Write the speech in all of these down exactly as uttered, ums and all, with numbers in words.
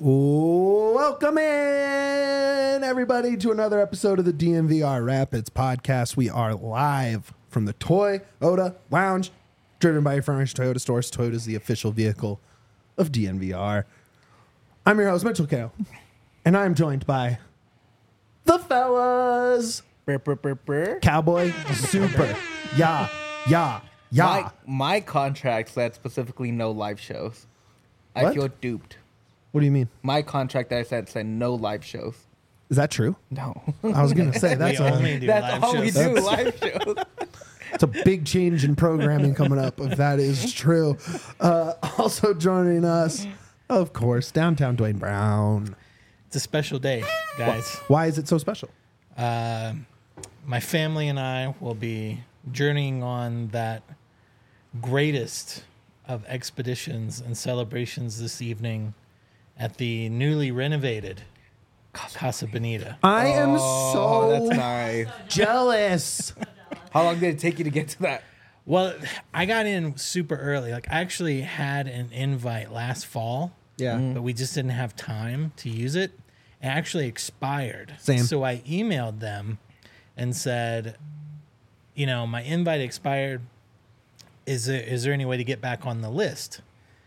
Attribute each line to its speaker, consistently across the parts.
Speaker 1: Welcome in, everybody, to another episode of the D N V R Rapids podcast. We are live from the Toyota Lounge, driven by your furnished Toyota stores. Toyota is the official vehicle of D N V R. I'm your host, Mitchell Kale, and I'm joined by the fellas.
Speaker 2: Brr, brr, brr, brr.
Speaker 1: Cowboy Super. Yeah, yeah, yeah.
Speaker 2: My, my contract said specifically no live shows. I
Speaker 1: What?
Speaker 2: feel duped.
Speaker 1: What do you mean?
Speaker 2: My contract that I said said no live shows.
Speaker 1: Is that true?
Speaker 2: No.
Speaker 1: I was going to say, that's
Speaker 3: we
Speaker 1: a,
Speaker 3: only do
Speaker 2: That's
Speaker 3: live
Speaker 2: all
Speaker 3: shows.
Speaker 2: we do, live shows.
Speaker 1: it's a big change in programming coming up, if that is true. Uh, also joining us, of course, downtown Dwayne Brown.
Speaker 3: It's a special day, guys.
Speaker 1: Why is it so special?
Speaker 3: Uh, my family and I will be journeying on that greatest of expeditions and celebrations this evening at the newly renovated Casa Bonita.
Speaker 1: I am
Speaker 2: Oh,
Speaker 1: so
Speaker 2: that's nice.
Speaker 1: jealous.
Speaker 2: How long did it take you to get to that?
Speaker 3: Well, I got in super early. Like, I actually had an invite last fall,
Speaker 1: Yeah.
Speaker 3: but we just didn't have time to use it. It actually expired.
Speaker 1: Same.
Speaker 3: So I emailed them and said, you know, my invite expired. Is there, is there any way to get back on the list?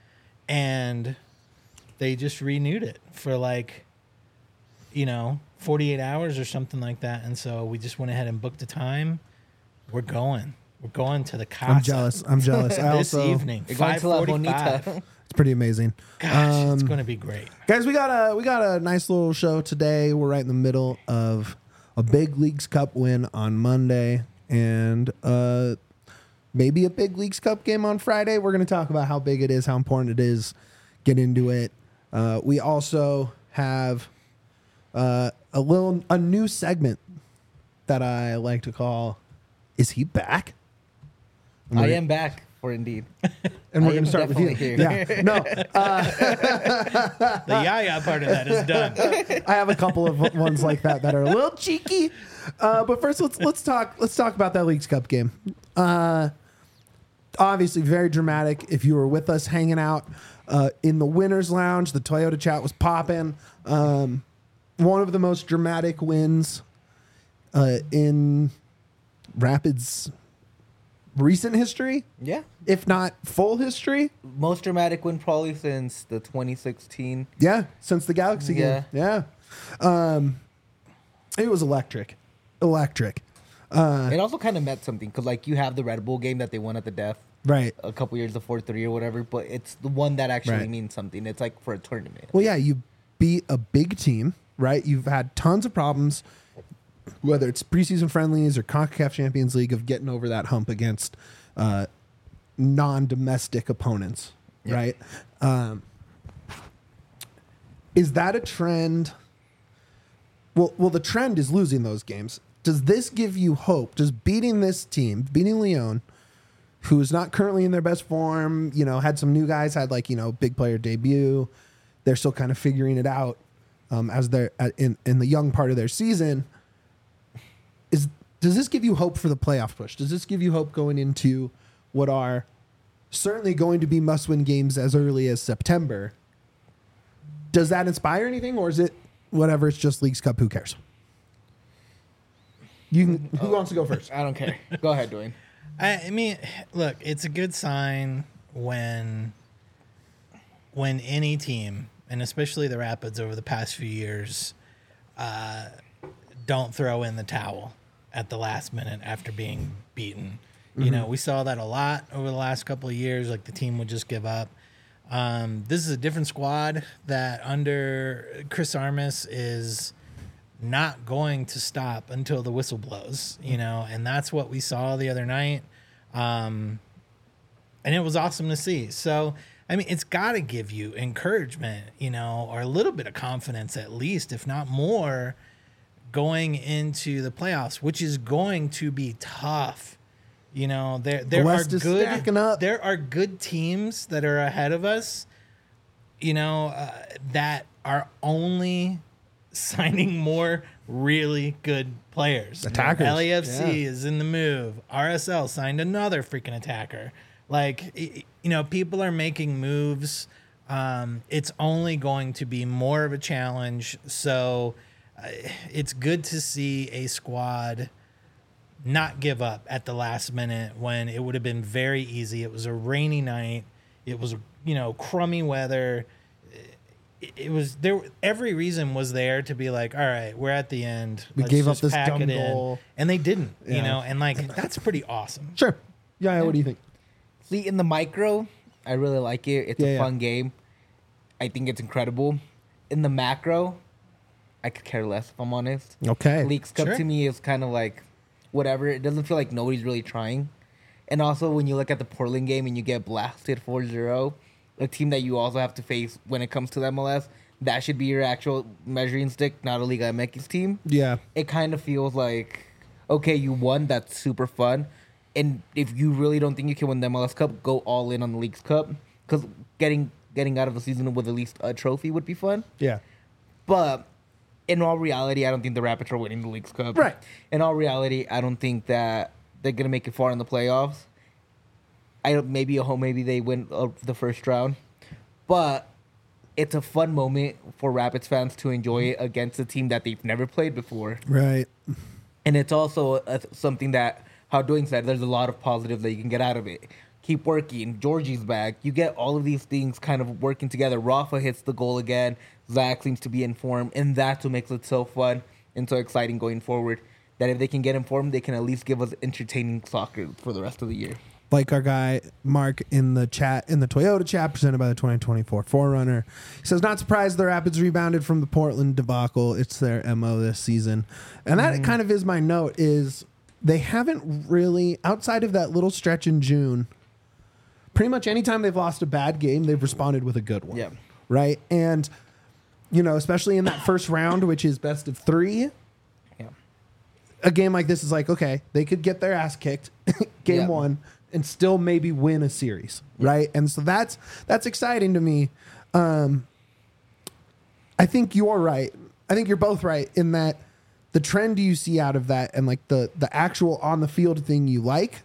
Speaker 3: And they just renewed it for like, you know, forty-eight hours or something like that. And so we just went ahead and booked a time. We're going. We're going to the Casa
Speaker 1: I'm jealous. I'm jealous. I
Speaker 3: this
Speaker 1: also,
Speaker 3: evening.
Speaker 2: You're going to La
Speaker 3: five forty-five.
Speaker 2: Bonita.
Speaker 1: it's pretty amazing.
Speaker 3: Gosh, it's
Speaker 1: Um,
Speaker 3: going to be great.
Speaker 1: Guys, we got a we got a nice little show today. We're right in the middle of a big Leagues Cup win on Monday and uh, maybe a big Leagues Cup game on Friday. We're going to talk about how big it is, how important it is. Get into it. Uh, we also have uh, a little a new segment that I like to call "Is He Back?" And
Speaker 2: I
Speaker 1: we're-
Speaker 2: am back for Indeed.
Speaker 1: and we're
Speaker 2: I
Speaker 1: going to
Speaker 2: am
Speaker 1: start with you.
Speaker 2: definitely here.
Speaker 1: Yeah, no, uh,
Speaker 3: The yaya part of that is done.
Speaker 1: I have a couple of ones like that that are a little cheeky. Uh, but first, let's let's talk let's talk about that Leagues Cup game. Uh, obviously, very dramatic. If you were with us hanging out uh, in the winners' lounge, the Toyota chat was popping. Um, one of the most dramatic wins uh, in Rapids' recent history,
Speaker 2: Yeah.
Speaker 1: if not full history.
Speaker 2: Most dramatic win probably since the twenty sixteen.
Speaker 1: Yeah, since the Galaxy game. Yeah. Um, it was electric. Electric. Uh,
Speaker 2: It also kind of meant something because, like, you have the Red Bull game that they won at the death
Speaker 1: right.
Speaker 2: a couple years before three or whatever, but it's the one that actually
Speaker 1: Right.
Speaker 2: means something. It's like for a tournament.
Speaker 1: Well, yeah, you beat a big team, right? You've had tons of problems, whether it's preseason friendlies or CONCACAF Champions League, of getting over that hump against uh, non-domestic opponents,
Speaker 2: Yeah.
Speaker 1: right? Um, is that a trend? Well, well, the trend is losing those games. Does this give you hope? Does beating this team, beating Lyon, who is not currently in their best form, you know, had some new guys, had like, you know, big player debut. They're still kind of figuring it out um, as they're at, in, in the young part of their season. Is Does this give you hope for the playoff push? Does this give you hope going into what are certainly going to be must-win games as early as September? Does that inspire anything, or is it whatever, it's just Leagues Cup, who cares? You can, who wants to go first?
Speaker 2: I don't care. Go ahead, Dwayne.
Speaker 3: I, I mean, look, it's a good sign when when any team, and especially the Rapids over the past few years, uh, don't throw in the towel at the last minute after being beaten. You know, we saw that a lot over the last couple of years. Like, the team would just give up. Um, this is a different squad that under Chris Armas is not going to stop until the whistle blows, you know, and that's what we saw the other night. Um, and it was awesome to see. So, I mean, it's got to give you encouragement, you know, or a little bit of confidence at least, if not more, going into the playoffs, which is going to be tough. You know, there there
Speaker 1: The
Speaker 3: are
Speaker 1: West is
Speaker 3: good
Speaker 1: stacking up.
Speaker 3: there are good teams that are ahead of us, you know, uh, that are only signing more really good players.
Speaker 1: Attackers.
Speaker 3: L A F C
Speaker 1: Yeah.
Speaker 3: is in the move. R S L signed another freaking attacker. Like, y- you know, people are making moves Um, it's only going to be more of a challenge. So uh, it's good to see a squad not give up at the last minute when it would have been very easy. It was a rainy night. It was, you know, crummy weather. It, it was there. Every reason was there to be like, all right, we're at the end.
Speaker 1: We
Speaker 3: Let's
Speaker 1: gave up
Speaker 3: just
Speaker 1: this
Speaker 3: pack
Speaker 1: dumb
Speaker 3: it in."
Speaker 1: goal.
Speaker 3: And they didn't, you
Speaker 1: Yeah.
Speaker 3: know, and like, that's pretty awesome.
Speaker 1: Sure. Yeah, what do you think?
Speaker 2: See, in the micro, I really like it. It's
Speaker 1: Yeah,
Speaker 2: a
Speaker 1: yeah.
Speaker 2: fun game. I think it's incredible. In the macro, I could care less if I'm honest.
Speaker 1: Okay.
Speaker 2: Leagues Cup
Speaker 3: Sure.
Speaker 2: to me is kind of like whatever. It doesn't feel like nobody's really trying. And also, when you look at the Portland game and you get blasted four zero, a team that you also have to face when it comes to the M L S, that should be your actual measuring stick, not a Liga M X team.
Speaker 1: Yeah.
Speaker 2: It kind of feels like, okay, you won. That's super fun. And if you really don't think you can win the M L S Cup, go all in on the Leagues Cup. Because getting getting out of the season with at least a trophy would be fun.
Speaker 1: Yeah.
Speaker 2: But in all reality, I don't think the Rapids are winning the Leagues Cup.
Speaker 1: Right.
Speaker 2: In all reality, I don't think that they're going to make it far in the playoffs. I don't, maybe a home, maybe they win uh, the first round. But it's a fun moment for Rapids fans to enjoy it against a team that they've never played before.
Speaker 1: Right.
Speaker 2: And it's also a, something that, how doing said, there's a lot of positives that you can get out of it. Keep working. Georgie's back. You get all of these things kind of working together. Rafa hits the goal again. Zach seems to be in form. And that's what makes it so fun and so exciting going forward. That if they can get informed, they can at least give us entertaining soccer for the rest of the year.
Speaker 1: Like our guy Mark in the chat, in the Toyota chat presented by the twenty twenty-four four runner. He says, not surprised the Rapids rebounded from the Portland debacle. It's their M O this season. And that kind of is my note, is they haven't really, outside of that little stretch in June, pretty much anytime they've lost a bad game, they've responded with a good one.
Speaker 2: Yeah.
Speaker 1: Right? And, you know, especially in that first round, which is best of three,
Speaker 2: Yeah.
Speaker 1: a game like this is like, okay, they could get their ass kicked game
Speaker 2: Yeah.
Speaker 1: one and still maybe win a series, right? And so that's that's exciting to me. Um, I think you're right. I think you're both right in that the trend you see out of that and like the the actual on the field thing you like,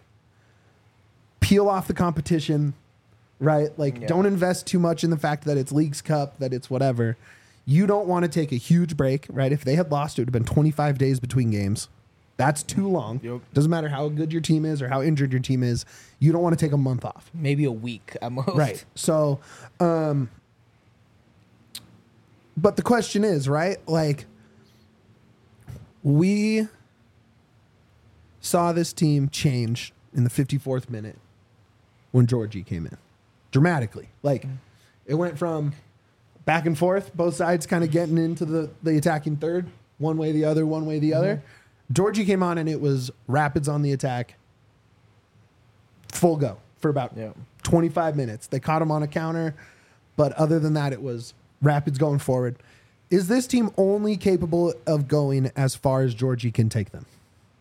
Speaker 1: peel off the competition, right? Like
Speaker 2: Yeah.
Speaker 1: don't invest too much in the fact that it's Leagues Cup, that it's whatever. You don't want to take a huge break, right? If they had lost, it would have been twenty-five days between games. That's too long.
Speaker 2: Yep.
Speaker 1: Doesn't matter how good your team is or how injured your team is. You don't want to take a month off.
Speaker 2: Maybe a week at most.
Speaker 1: Right. So, um, but the question is, right? Like, we saw this team change in the fifty-fourth minute when Georgie came in dramatically. Like, it went from back and forth, both sides kind of getting into the, the attacking third, one way, the other, one way, the other. Georgie came on and it was Rapids on the attack, full go for about
Speaker 2: Yeah.
Speaker 1: twenty-five minutes. They caught him on a counter, but other than that, it was Rapids going forward. Is this team only capable of going as far as Georgie can take them?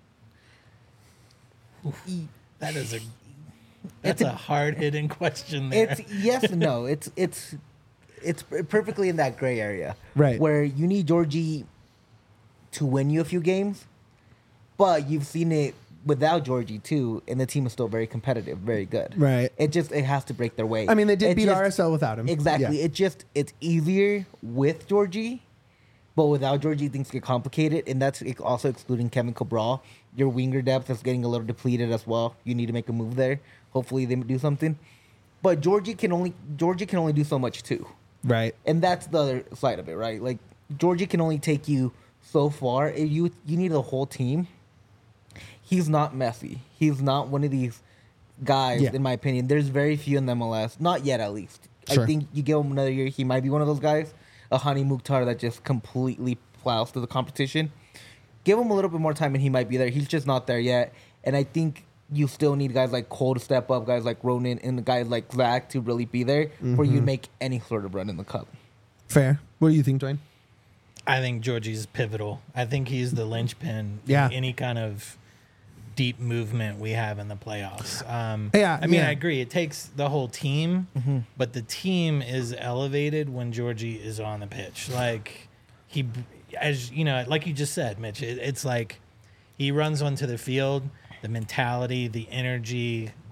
Speaker 3: That is a that's a hard hitting question there.
Speaker 2: It's yes and no. It's it's it's perfectly in that gray area.
Speaker 1: Right.
Speaker 2: Where you need Georgie to win you a few games, but you've seen it without Georgie too, and the team is still very competitive, very good.
Speaker 1: Right.
Speaker 2: It just it has to break their way.
Speaker 1: I mean, they did
Speaker 2: It
Speaker 1: beat
Speaker 2: just-
Speaker 1: R S L without him.
Speaker 2: Exactly.
Speaker 1: Yeah.
Speaker 2: It just it's easier with Georgie, but without Georgie things get complicated, and that's ex- also excluding Kevin Cabral. Your winger depth is getting a little depleted as well. You need to make a move there. Hopefully they do something. But Georgie can only Georgie can only do so much too.
Speaker 1: Right.
Speaker 2: And that's the other side of it, right? Like Georgie can only take you so far. If You you need a whole team. He's not Messi. He's not one of these guys,
Speaker 1: Yeah.
Speaker 2: in my opinion. There's very few in the M L S. Not yet, at least.
Speaker 1: Sure.
Speaker 2: I think you give him another year, he might be one of those guys. A Hani Mukhtar that just completely plows through the competition. Give him a little bit more time and he might be there. He's just not there yet. And I think you still need guys like Cole to step up, guys like Ronan, and guys like Zach to really be there for you to make any sort of run in the cup.
Speaker 1: Fair. What do you think, Dwayne?
Speaker 3: I think Georgie's pivotal. I think he's the linchpin
Speaker 1: Yeah.
Speaker 3: in any kind of deep movement we have in the playoffs. Um,
Speaker 1: Yeah,
Speaker 3: I mean,
Speaker 1: yeah.
Speaker 3: I agree. It takes the whole team, but the team is elevated when Georgie is on the pitch. Like he, as you know, like you just said, Mitch, it, it's like he runs onto the field, the mentality, the energy,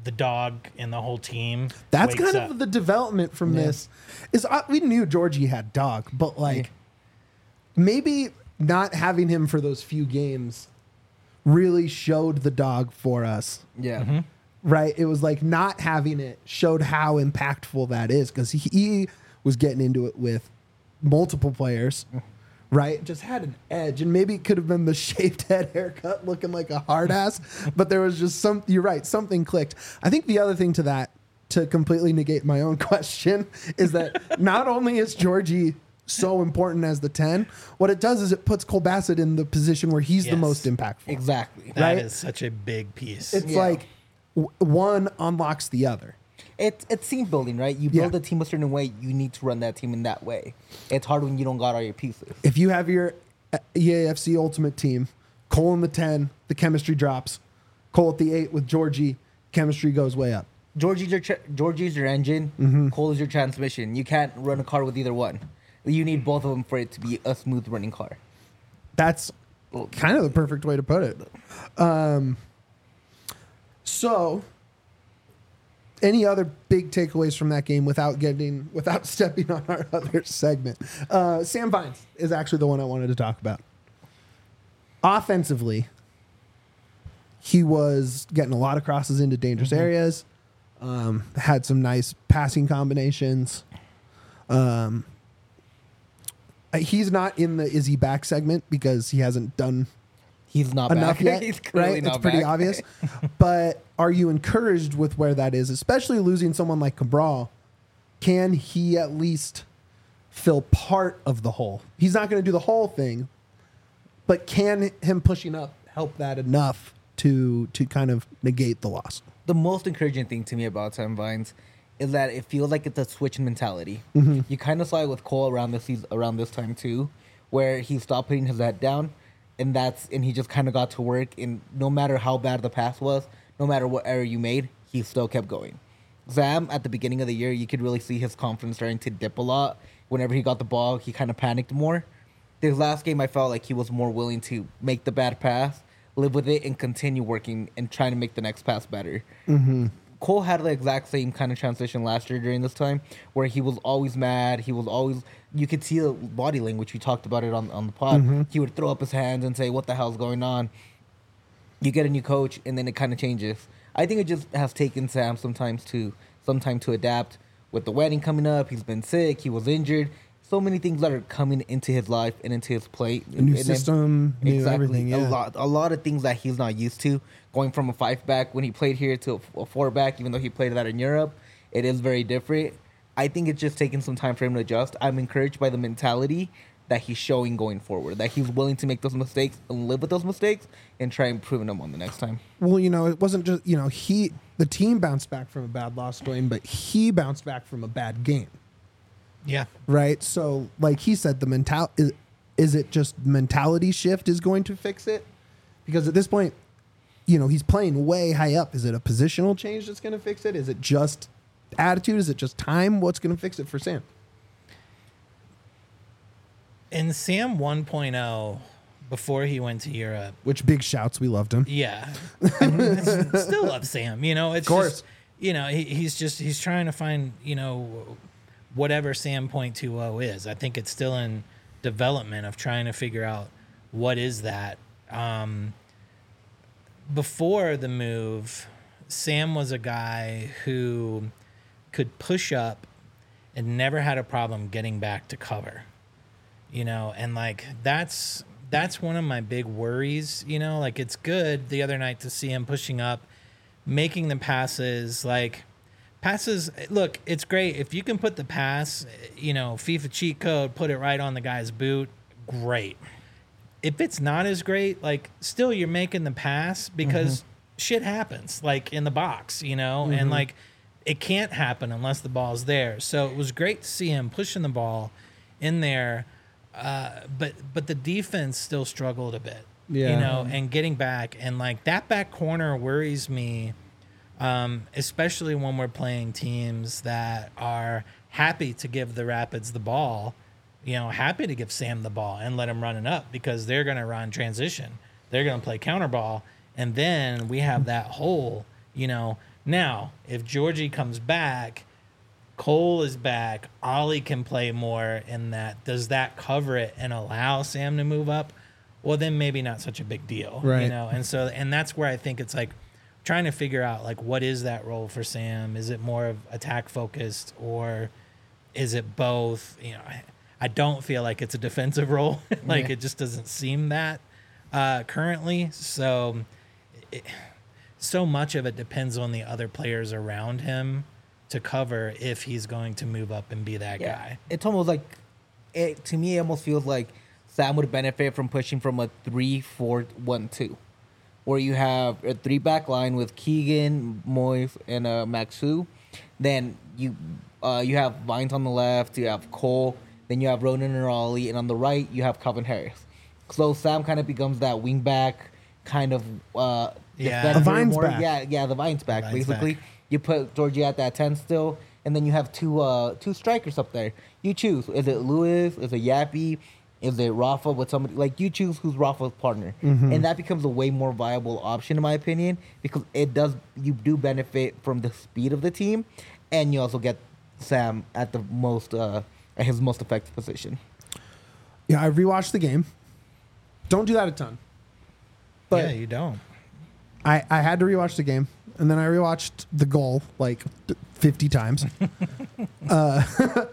Speaker 3: the dog and the whole team.
Speaker 1: That's
Speaker 3: wakes
Speaker 1: kind
Speaker 3: up.
Speaker 1: of the development from
Speaker 3: Yeah.
Speaker 1: this. Is uh, we knew Georgie had dog, but like
Speaker 2: Yeah.
Speaker 1: maybe not having him for those few games really showed the dog for us.
Speaker 2: Yeah.
Speaker 1: Right? It was like not having it showed how impactful that is because he, he was getting into it with multiple players. Right? Just had an edge, and maybe it could have been the shaved head haircut looking like a hard ass, but there was just some, you're right, something clicked. I think the other thing to that, to completely negate my own question, is that not only is Georgie so important as the ten, what it does is it puts Cole Bassett in the position where he's the
Speaker 3: Yes.
Speaker 1: most impactful.
Speaker 2: Exactly.
Speaker 3: That is
Speaker 1: right?
Speaker 3: such a big piece.
Speaker 1: It's
Speaker 2: Yeah.
Speaker 1: like w- one unlocks the other.
Speaker 2: It's it's team building, right? You build
Speaker 1: Yeah.
Speaker 2: a team a certain way, you need to run that team in that way. It's hard when you don't got all your pieces.
Speaker 1: If you have your uh, E A F C Ultimate team, Cole in the ten, the chemistry drops. Cole at the eight with Georgie, chemistry goes way up.
Speaker 2: Georgie's your tra- Georgie's your engine.
Speaker 1: Mm-hmm.
Speaker 2: Cole is your transmission. You can't run a car with either one. You need both of them for it to be a smooth running car.
Speaker 1: That's kind of the perfect way to put it. Um, so, any other big takeaways from that game without getting without stepping on our other segment? Uh, Sam Vines is actually the one I wanted to talk about. Offensively, he was getting a lot of crosses into dangerous areas. Um, had some nice passing combinations. Um, uh, he's not in the is he back segment because he hasn't done
Speaker 2: He's not
Speaker 1: enough
Speaker 2: back.
Speaker 1: yet,
Speaker 2: He's clearly
Speaker 1: right?
Speaker 2: not
Speaker 1: It's pretty
Speaker 2: back.
Speaker 1: obvious. But are you encouraged with where that is, especially losing someone like Cabral? Can he at least fill part of the hole? He's not going to do the whole thing, but can him pushing up help that enough to to kind of negate the loss?
Speaker 2: The most encouraging thing to me about Sam Vines is that it feels like it's a switch in mentality.
Speaker 1: Mm-hmm.
Speaker 2: You kind of saw it with Cole around this season, around this time too, where he stopped putting his head down, and that's and he just kind of got to work. And no matter how bad the pass was, no matter what error you made, he still kept going. Sam, at the beginning of the year, you could really see his confidence starting to dip a lot. Whenever he got the ball, he kind of panicked more. This last game, I felt like he was more willing to make the bad pass, live with it, and continue working and trying to make the next pass better.
Speaker 1: Mm-hmm.
Speaker 2: Cole had the exact same kind of transition last year during this time, where he was always mad. He was always, you could see the body language. We talked about it on, on the pod.
Speaker 1: Mm-hmm.
Speaker 2: He would throw up his hands and say, "What the hell's going on?" You get a new coach, and then it kind of changes. I think it just has taken Sam sometimes to some time to adapt. With the wedding coming up, he's been sick. He was injured. So many things that are coming into his life and into his plate.
Speaker 1: A new
Speaker 2: And then-
Speaker 1: system, new
Speaker 2: exactly.
Speaker 1: everything. Yeah.
Speaker 2: A lot, a lot of things that he's not used to. Going from a five back when he played here to a, a four back, even though he played that in Europe, it is very different. I think it's just taking some time for him to adjust. I'm encouraged by the mentality that he's showing going forward. That he's willing to make those mistakes and live with those mistakes and try improving them on the next time.
Speaker 1: Well, you know, it wasn't just, you know, he, the team bounced back from a bad loss game, but he bounced back from a bad game,
Speaker 3: Yeah.
Speaker 1: right? So, like he said, the mental is, is it just mentality shift is going to fix it? Because at this point, you know, he's playing way high up. Is it a positional change that's going to fix it? Is it just attitude? Is it just time? What's going to fix it for Sam?
Speaker 3: In Sam 1.0, before he went to Europe,
Speaker 1: Which big shouts. We loved him.
Speaker 3: yeah, still love Sam. You know, it's
Speaker 1: Of course.
Speaker 3: just, you know, he, he's just he's trying to find, you know, whatever Sam point two oh is. I think it's still in development of trying to figure out what is that. Um, before the move, Sam was a guy who could push up and never had a problem getting back to cover. You know, and like that's that's one of my big worries, you know, like it's good the other night to see him pushing up, making the passes, like passes. Look, it's great if you can put the pass, you know, FIFA cheat code, put it right on the guy's boot, great. If it's not as great, like still you're making the pass because mm-hmm. shit happens, like in the box, you know, mm-hmm. and like it can't happen unless the ball's there. So it was great to see him pushing the ball in there. Uh, but but the defense still struggled a bit,
Speaker 1: Yeah.
Speaker 3: you know, and getting back and like that back corner worries me, um, especially when we're playing teams that are happy to give the Rapids the ball, you know, happy to give Sam the ball and let him run it up because they're going to run transition, they're going to play counter ball, and then we have that hole, you know, Now, if Georgie comes back, Cole is back, Ollie can play more in that. Does that cover it and allow Sam to move up? Well, then maybe not such a big deal,
Speaker 1: Right.
Speaker 3: you know? And so, and that's where I think it's like trying to figure out, like, what is that role for Sam? Is it more of attack focused or is it both? You know, I, I don't feel like it's a defensive role. like,
Speaker 2: Yeah.
Speaker 3: it just doesn't seem that uh, currently. So, it, so much of it depends on the other players around him to cover if he's going to move up and be that
Speaker 2: Yeah.
Speaker 3: guy.
Speaker 2: It's almost like, it, to me, it almost feels like Sam would benefit from pushing from a three four one two, where you have a three back line with Keegan, Moise, and uh, Maxu. Then you uh, you have Vines on the left, you have Cole, then you have Ronan and Raleigh, and on the right you have Calvin Harris. So Sam kind of becomes that wing back kind of uh,
Speaker 3: Yeah.
Speaker 2: defender
Speaker 1: The Vines
Speaker 2: more.
Speaker 1: back.
Speaker 2: Yeah, yeah, the Vines back
Speaker 3: Vines
Speaker 2: basically.
Speaker 3: back.
Speaker 2: You put Georgie at that ten still, and then you have two uh two strikers up there. You choose. Is it Lewis? Is it Yappy? Is it Rafa with somebody? Like, you choose who's Rafa's partner. And that becomes a way more viable option, in my opinion, because it does, you do benefit from the speed of the team, and you also get Sam at the most, uh, at his most effective position.
Speaker 1: Yeah, I rewatched the game. Don't do that a ton. But
Speaker 3: yeah, you don't.
Speaker 1: I, I had to rewatch the game, and then I rewatched the goal like fifty times. uh,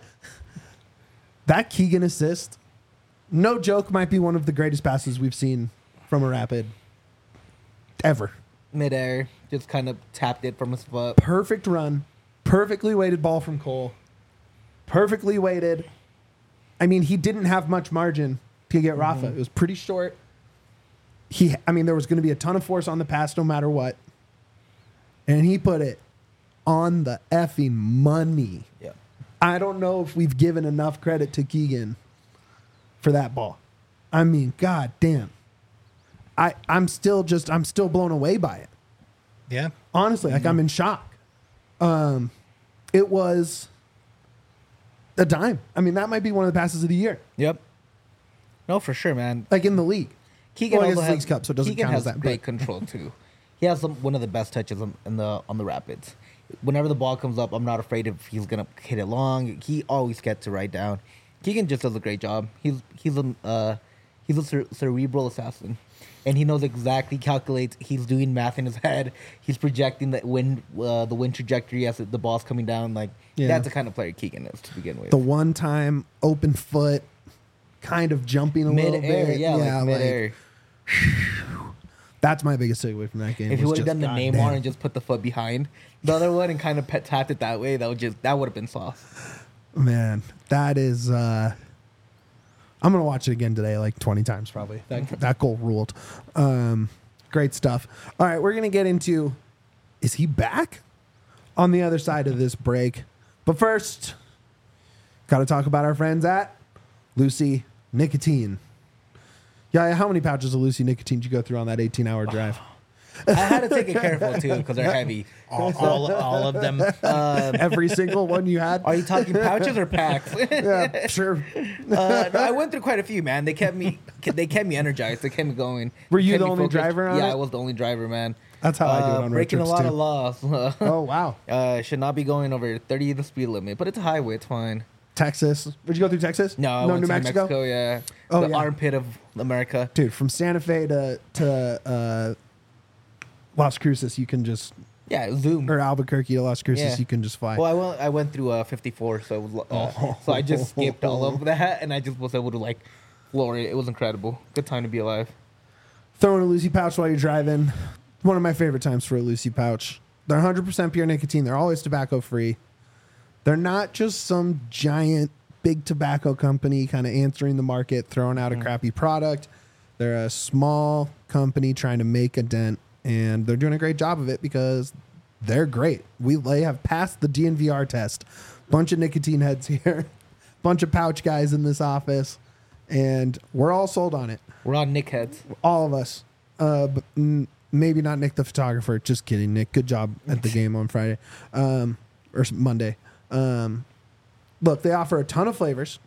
Speaker 1: that Keegan assist, no joke, might be one of the greatest passes we've seen from a Rapid ever.
Speaker 2: Midair, just kind of tapped it from his foot.
Speaker 1: Perfect run, perfectly weighted ball from Cole, perfectly weighted. I mean, he didn't have much margin to get Rafa. It was pretty short. He, I mean, there was going to be a ton of force on the pass no matter what. And he put it on the effing money.
Speaker 2: Yeah.
Speaker 1: I don't know if we've given enough credit to Keegan for that ball. I mean, god damn. I, I'm still just, I'm still blown away by it.
Speaker 3: Yeah.
Speaker 1: Honestly, like, I'm in shock. Um, it was a dime. I mean, that might be one of the passes of the year,
Speaker 2: Yep. No, for sure, man.
Speaker 1: like in the league.
Speaker 2: Keegan
Speaker 1: Well, I
Speaker 2: also
Speaker 1: guess
Speaker 2: has
Speaker 1: Leagues Cup, so it doesn't
Speaker 2: Keegan
Speaker 1: count
Speaker 2: has
Speaker 1: as that,
Speaker 2: great
Speaker 1: but-
Speaker 2: control too. He has some, one of the best touches on, in the on the Rapids. Whenever the ball comes up, I'm not afraid if he's gonna hit it long. He always gets it right down. Keegan just does a great job. He's he's a uh, he's a cere- cerebral assassin, and he knows exactly, calculates. He's doing math in his head. He's projecting the wind uh, the wind trajectory as the ball's coming down. Like,
Speaker 1: Yeah.
Speaker 2: that's the kind of player Keegan is to begin with.
Speaker 1: The one time open foot, kind of jumping a little
Speaker 2: Mid-air,
Speaker 1: bit.
Speaker 2: yeah, like mid-air.
Speaker 1: That's my biggest takeaway from that game.
Speaker 2: If he
Speaker 1: was
Speaker 2: would have
Speaker 1: just,
Speaker 2: done the
Speaker 1: God
Speaker 2: Neymar
Speaker 1: damn.
Speaker 2: and just put the foot behind the other one and kind of pet tapped it that way, that would just that would have been soft.
Speaker 1: Man, that is. Uh, I'm gonna watch it again today, like twenty times probably. That that goal ruled. Um, great stuff. All right, we're gonna get into. Is he back? On the other side of this break, but first, got to talk about our friends at Lucy Nicotine. Yeah, how many pouches of Lucy Nicotine did you go through on that eighteen hour drive?
Speaker 2: I had to take it careful too because they're heavy.
Speaker 3: All, all, all of them.
Speaker 1: Every single one you had.
Speaker 2: Are you talking pouches or packs?
Speaker 1: Yeah, sure.
Speaker 2: uh, no, I went through quite a few, man. They kept me they kept me energized. They kept me going.
Speaker 1: Were you
Speaker 2: Kept
Speaker 1: the
Speaker 2: me
Speaker 1: only
Speaker 2: focused.
Speaker 1: driver on
Speaker 2: Yeah,
Speaker 1: it?
Speaker 2: I was the only driver, man.
Speaker 1: That's how I do it on road
Speaker 2: breaking
Speaker 1: trips
Speaker 2: a lot
Speaker 1: too.
Speaker 2: of laws.
Speaker 1: Oh wow,
Speaker 2: uh, should not be going over thirty the speed limit, but it's a highway. It's fine.
Speaker 1: Texas. Did you go through Texas?
Speaker 2: No, I
Speaker 1: no,
Speaker 2: went
Speaker 1: New
Speaker 2: to
Speaker 1: Mexico?
Speaker 2: Mexico. Yeah,
Speaker 1: Oh,
Speaker 2: the
Speaker 1: yeah.
Speaker 2: armpit of America.
Speaker 1: Dude, from Santa Fe to to uh, Las Cruces, you can just
Speaker 2: Yeah, zoom.
Speaker 1: or Albuquerque to Las Cruces,
Speaker 2: Yeah.
Speaker 1: you can just fly.
Speaker 2: Well, I went. I went through uh, fifty-four, so it was, uh, so I just skipped all of that, and I just was able to like floor it. It was incredible. Good time to be alive.
Speaker 1: Throwing a Lucy pouch while you're driving, one of my favorite times for a Lucy pouch. They're one hundred percent pure nicotine. They're always tobacco free. They're not just some giant big tobacco company kind of answering the market, throwing out a crappy product. They're a small company trying to make a dent, and they're doing a great job of it because they're great. We they have passed the D N V R test. Bunch of nicotine heads here, bunch of pouch guys in this office, and we're all sold on it.
Speaker 2: We're on Nick heads.
Speaker 1: All of us. Uh, but mm, maybe not Nick the photographer. Just kidding, Nick. Good job at the game on Friday um, or s- Monday. Um, look, they offer a ton of flavors: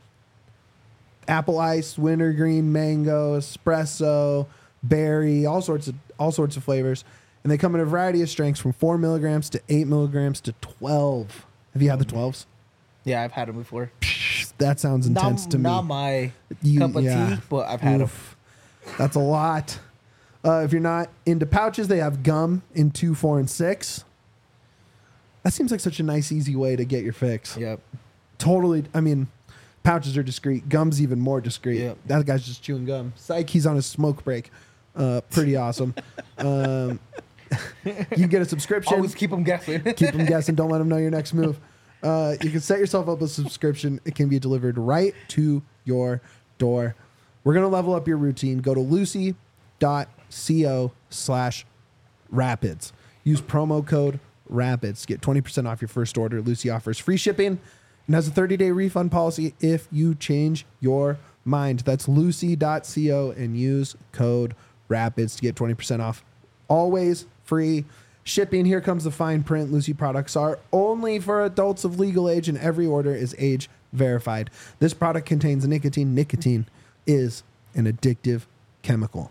Speaker 1: apple ice, wintergreen, mango, espresso, berry, all sorts of all sorts of flavors. And they come in a variety of strengths from four milligrams to eight milligrams to twelve. Have you had the twelves?
Speaker 2: Yeah, I've had them before.
Speaker 1: That sounds intense
Speaker 2: not,
Speaker 1: to me.
Speaker 2: Not my
Speaker 1: You-
Speaker 2: cup of
Speaker 1: yeah.
Speaker 2: tea, but I've had them.
Speaker 1: Oof. That's a lot. Uh, if you're not into pouches, they have gum in two, four, and six. That seems like such a nice, easy way to get your fix.
Speaker 2: Yep.
Speaker 1: Totally. I mean, pouches are discreet. Gum's even more discreet.
Speaker 2: Yep.
Speaker 1: That guy's just chewing gum. Psych, he's on a smoke break. Uh, pretty awesome. um, you can get a subscription.
Speaker 2: Always keep them guessing.
Speaker 1: Keep them guessing. Don't let them know your next move. Uh, you can set yourself up a subscription. It can be delivered right to your door. We're going to level up your routine. Go to lucy dot co slash rapids. Use promo code rapids to get twenty percent off your first order. Lucy offers free shipping and has a thirty-day refund policy if you change your mind. That's lucy dot co and use code rapids to get twenty percent off. Always free shipping. Here comes the fine print. Lucy products are only for adults of legal age, and every order is age verified. This product contains nicotine. Nicotine is an addictive chemical.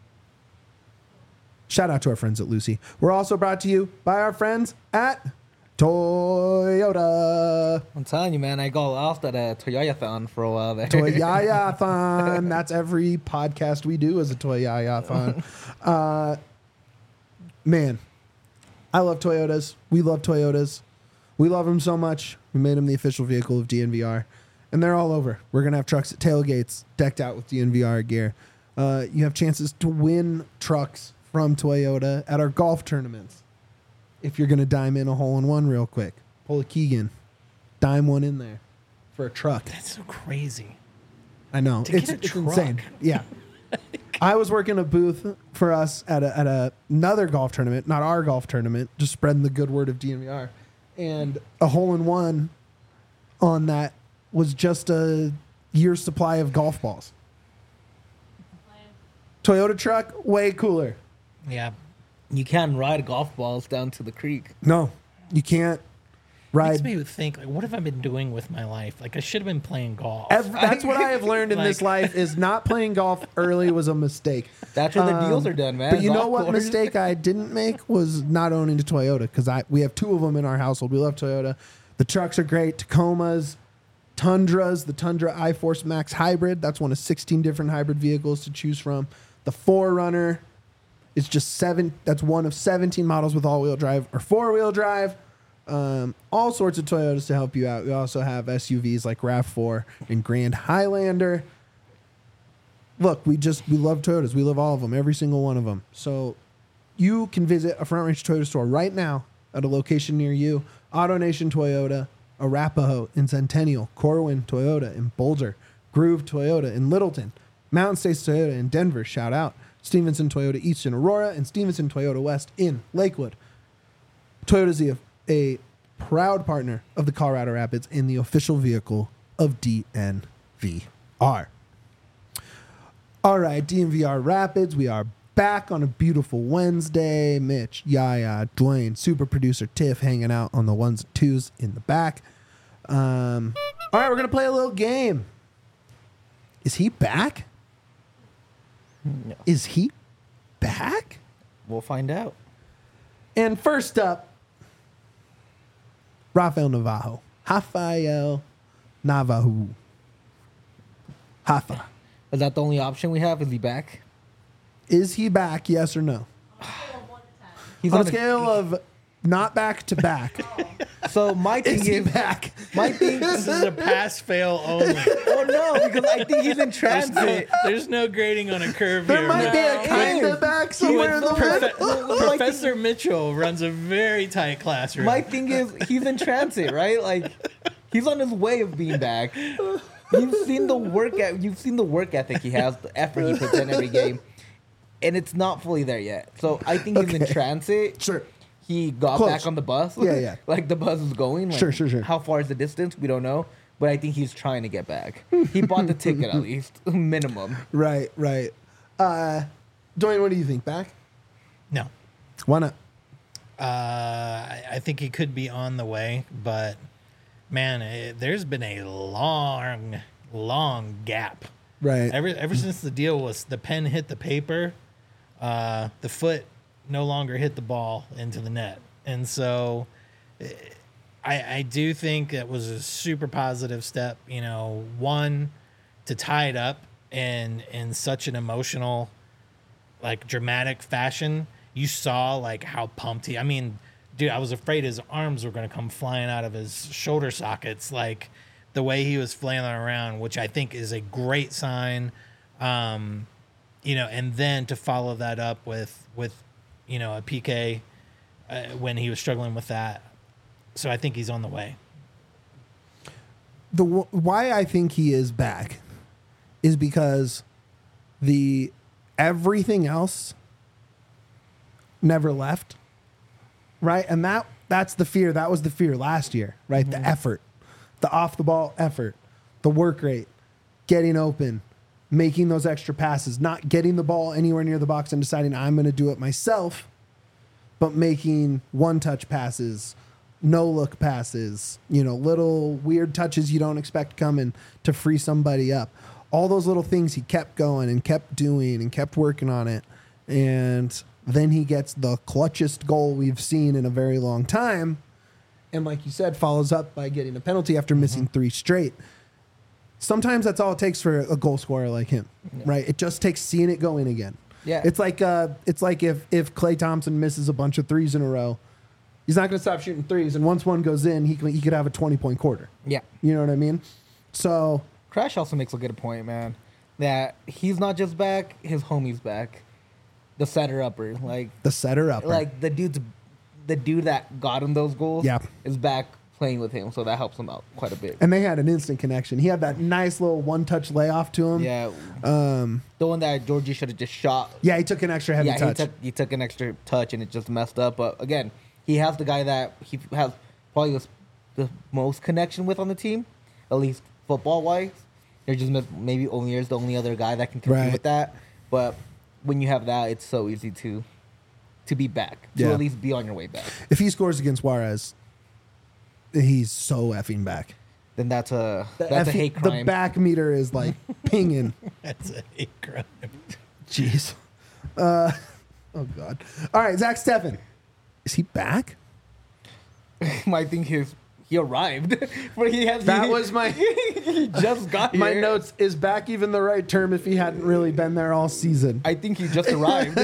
Speaker 1: Shout out to our friends at Lucy. We're also brought to you by our friends at Toyota.
Speaker 2: I'm telling you, man, I got lost at a Toyota-thon for a while there.
Speaker 1: Toyota-thon. That's every podcast we do is a Toyota-thon. Uh, man, I love Toyotas. We love Toyotas. We love them so much. We made them the official vehicle of D N V R. And they're all over. We're going to have trucks at tailgates decked out with D N V R gear. Uh, you have chances to win trucks from Toyota at our golf tournaments. If you're going to dime in a hole-in-one real quick. Pull a Keegan. Dime one in there for a truck.
Speaker 3: That's so crazy.
Speaker 1: I know.
Speaker 3: To
Speaker 1: It's,
Speaker 3: get a
Speaker 1: it's
Speaker 3: truck.
Speaker 1: insane. Yeah. I was working a booth for us at, a, at a, another golf tournament, not our golf tournament, just spreading the good word of D N V R. And a hole-in-one on that was just a year's supply of golf balls. Toyota truck, way cooler.
Speaker 3: Yeah.
Speaker 2: You can ride golf balls down to the creek.
Speaker 1: No, you can't
Speaker 3: Makes
Speaker 1: ride.
Speaker 3: me think, like, what have I been doing with my life? Like, I should have been playing golf.
Speaker 1: Ev- that's what I have learned in this
Speaker 3: Like-
Speaker 1: life is not playing golf early was a mistake.
Speaker 2: That's where the
Speaker 1: Um,
Speaker 2: deals are done, man.
Speaker 1: But you know
Speaker 2: Golf
Speaker 1: what
Speaker 2: course.
Speaker 1: mistake I didn't make was not owning a Toyota because I we have two of them in our household. We love Toyota. The trucks are great. Tacomas, Tundras, the Tundra iForce Max Hybrid. That's one of sixteen different hybrid vehicles to choose from. The four runner is just seven. That's one of seventeen models with all-wheel drive or four-wheel drive. Um, all sorts of Toyotas to help you out. We also have S U Vs like RAV four and Grand Highlander. Look, we just we love Toyotas. We love all of them, every single one of them. So you can visit a Front Range Toyota store right now at a location near you. AutoNation Toyota, Arapahoe in Centennial, Corwin Toyota in Boulder, Groove Toyota in Littleton, Mountain States Toyota in Denver, shout out, Stevenson Toyota East in Aurora, and Stevenson Toyota West in Lakewood. Toyota is a, a proud partner of the Colorado Rapids and the official vehicle of D N V R. All right, D N V R Rapids, we are back on a beautiful Wednesday. Mitch, Yaya, Dwayne, super producer Tiff hanging out on the ones and twos in the back. Um, all right, we're going to play a little game. Is he back?
Speaker 2: No.
Speaker 1: Is he back?
Speaker 2: We'll find out.
Speaker 1: And first up, Rafael Navajo. Rafael Navajo. Hafa.
Speaker 2: Is that the only option we have? Is he back?
Speaker 1: Is he back, yes or no?
Speaker 2: He's
Speaker 1: On a
Speaker 2: a-
Speaker 1: scale of not back to back,
Speaker 2: So my thing
Speaker 1: is he
Speaker 2: is,
Speaker 1: back?
Speaker 2: my thing.
Speaker 3: This is a pass fail only.
Speaker 2: Oh no, because I think he's in
Speaker 3: There's no,
Speaker 2: transit.
Speaker 3: there's no grading on a curve
Speaker 1: There
Speaker 3: here.
Speaker 1: might be a
Speaker 2: No.
Speaker 1: kind of back somewhere in the
Speaker 3: Profe-
Speaker 1: middle.
Speaker 3: Professor Mitchell runs a very tight classroom.
Speaker 2: My thing is, he's in transit, right? Like, he's on his way of being back. You've seen the work. et- You've seen the work ethic he has, the effort he puts in every game, and it's not fully there yet. So I think he's in
Speaker 1: Okay.
Speaker 2: transit.
Speaker 1: Sure.
Speaker 2: He got
Speaker 1: Close.
Speaker 2: back on the bus.
Speaker 1: Yeah, yeah.
Speaker 2: Like the bus is going. Like,
Speaker 1: Sure, sure, sure.
Speaker 2: How far is the distance? We don't know. But I think he's trying to get back. He bought the ticket at least, minimum.
Speaker 1: Right, right. Uh, Dwayne, what do you think? Back?
Speaker 3: no.
Speaker 1: Why not?
Speaker 3: Uh, I I think he could be on the way, but man, it, there's been a long, long gap.
Speaker 1: Right.
Speaker 3: Ever ever since the deal was the pen hit the paper, uh, the foot no longer hit the ball into the net. And so I, I do think it was a super positive step, you know, one, to tie it up in, in such an emotional, like dramatic fashion. You saw like how pumped he, I mean, dude, I was afraid his arms were going to come flying out of his shoulder sockets. Like the way he was flailing around, which I think is a great sign. Um, you know, and then to follow that up with, with, you know, a P K uh, when he was struggling with that. So I think he's on the way.
Speaker 1: The why I think he is back is because the everything else never left, right? And that that's the fear. That was the fear last year, right? Mm-hmm. The effort, the off the ball effort, the work rate, getting open, making those extra passes, not getting the ball anywhere near the box and deciding I'm going to do it myself, but making one-touch passes, no-look passes, you know, little weird touches you don't expect coming to free somebody up. All those little things he kept going and kept doing and kept working on it. And then he gets the clutchest goal we've seen in a very long time. And like you said, follows up by getting a penalty after missing mm-hmm. three straight. Sometimes that's all it takes for a goal scorer like him, yeah. right? It just takes seeing it go in again.
Speaker 2: Yeah,
Speaker 1: it's like uh, it's like if if Klay Thompson misses a bunch of threes in a row, he's not going to stop shooting threes. And once one goes in, he he could have a twenty point quarter.
Speaker 2: Yeah,
Speaker 1: you know what I mean. So
Speaker 2: Crash also makes a good point, man. That he's not just back; his homie's back. The setter upper, like
Speaker 1: the setter upper,
Speaker 2: like the dude's the dude that got him those goals.
Speaker 1: Yeah,
Speaker 2: is back playing with him, so that helps him out quite a bit.
Speaker 1: And they had an instant connection. He had that nice little one-touch layoff to him.
Speaker 2: Yeah,
Speaker 1: um,
Speaker 2: the one that Georgie should have just shot.
Speaker 1: Yeah, he took an extra heavy
Speaker 2: yeah,
Speaker 1: touch.
Speaker 2: He took, he took an extra touch, and it just messed up. But again, he has the guy that he has probably the, the most connection with on the team, at least football-wise. They're just maybe Omier's the only other guy that can compete
Speaker 1: right.
Speaker 2: with that. But when you have that, it's so easy to to be back, to
Speaker 1: yeah.
Speaker 2: at least be on your way back.
Speaker 1: If he scores against Juarez, he's so effing back.
Speaker 2: Then that's a
Speaker 1: the
Speaker 2: that's
Speaker 1: effing,
Speaker 2: a hate crime.
Speaker 1: The back meter is like pinging.
Speaker 3: That's a hate crime.
Speaker 1: Jeez. Uh, oh God. All right, Zach Steffen. Is he back?
Speaker 2: I think his he arrived, but he has.
Speaker 1: That
Speaker 2: he,
Speaker 1: was my.
Speaker 2: he just got
Speaker 1: my
Speaker 2: here.
Speaker 1: notes. Is back even the right term if he hadn't really been there all season?
Speaker 2: I think he just arrived.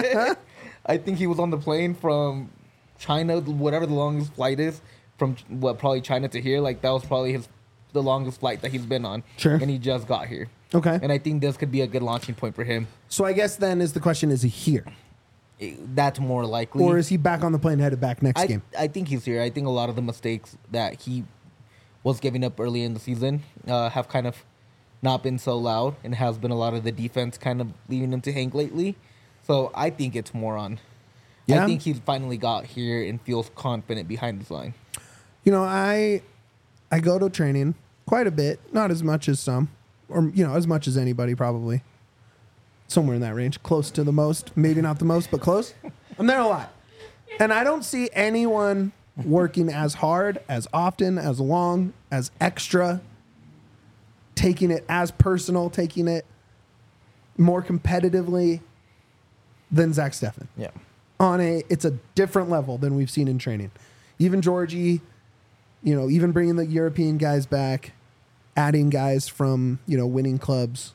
Speaker 2: I think he was on the plane from China, whatever the longest flight is, from what probably China to here. Like that was probably his the longest flight that he's been on.
Speaker 1: Sure.
Speaker 2: And he just got here.
Speaker 1: Okay.
Speaker 2: And I think this could be a good launching point for him.
Speaker 1: So I guess then is the question: is he here?
Speaker 2: That's more likely.
Speaker 1: Or is he back on the plane headed back next
Speaker 2: I,
Speaker 1: game?
Speaker 2: I think he's here. I think a lot of the mistakes that he was giving up early in the season uh, have kind of not been so loud, and has been a lot of the defense kind of leaving him to hang lately. So I think it's more on. Yeah? I think he's finally got here and feels confident behind his line.
Speaker 1: You know, I I go to training quite a bit, not as much as some, or you know, as much as anybody probably. Somewhere in that range, close to the most, maybe not the most, but close. I'm there a lot. And I don't see anyone working as hard, as often, as long, as extra, taking it as personal, taking it more competitively than Zach Steffen.
Speaker 2: Yeah.
Speaker 1: On a, it's a different level than we've seen in training. Even Georgie, you know, even bringing the European guys back, adding guys from, you know, winning clubs.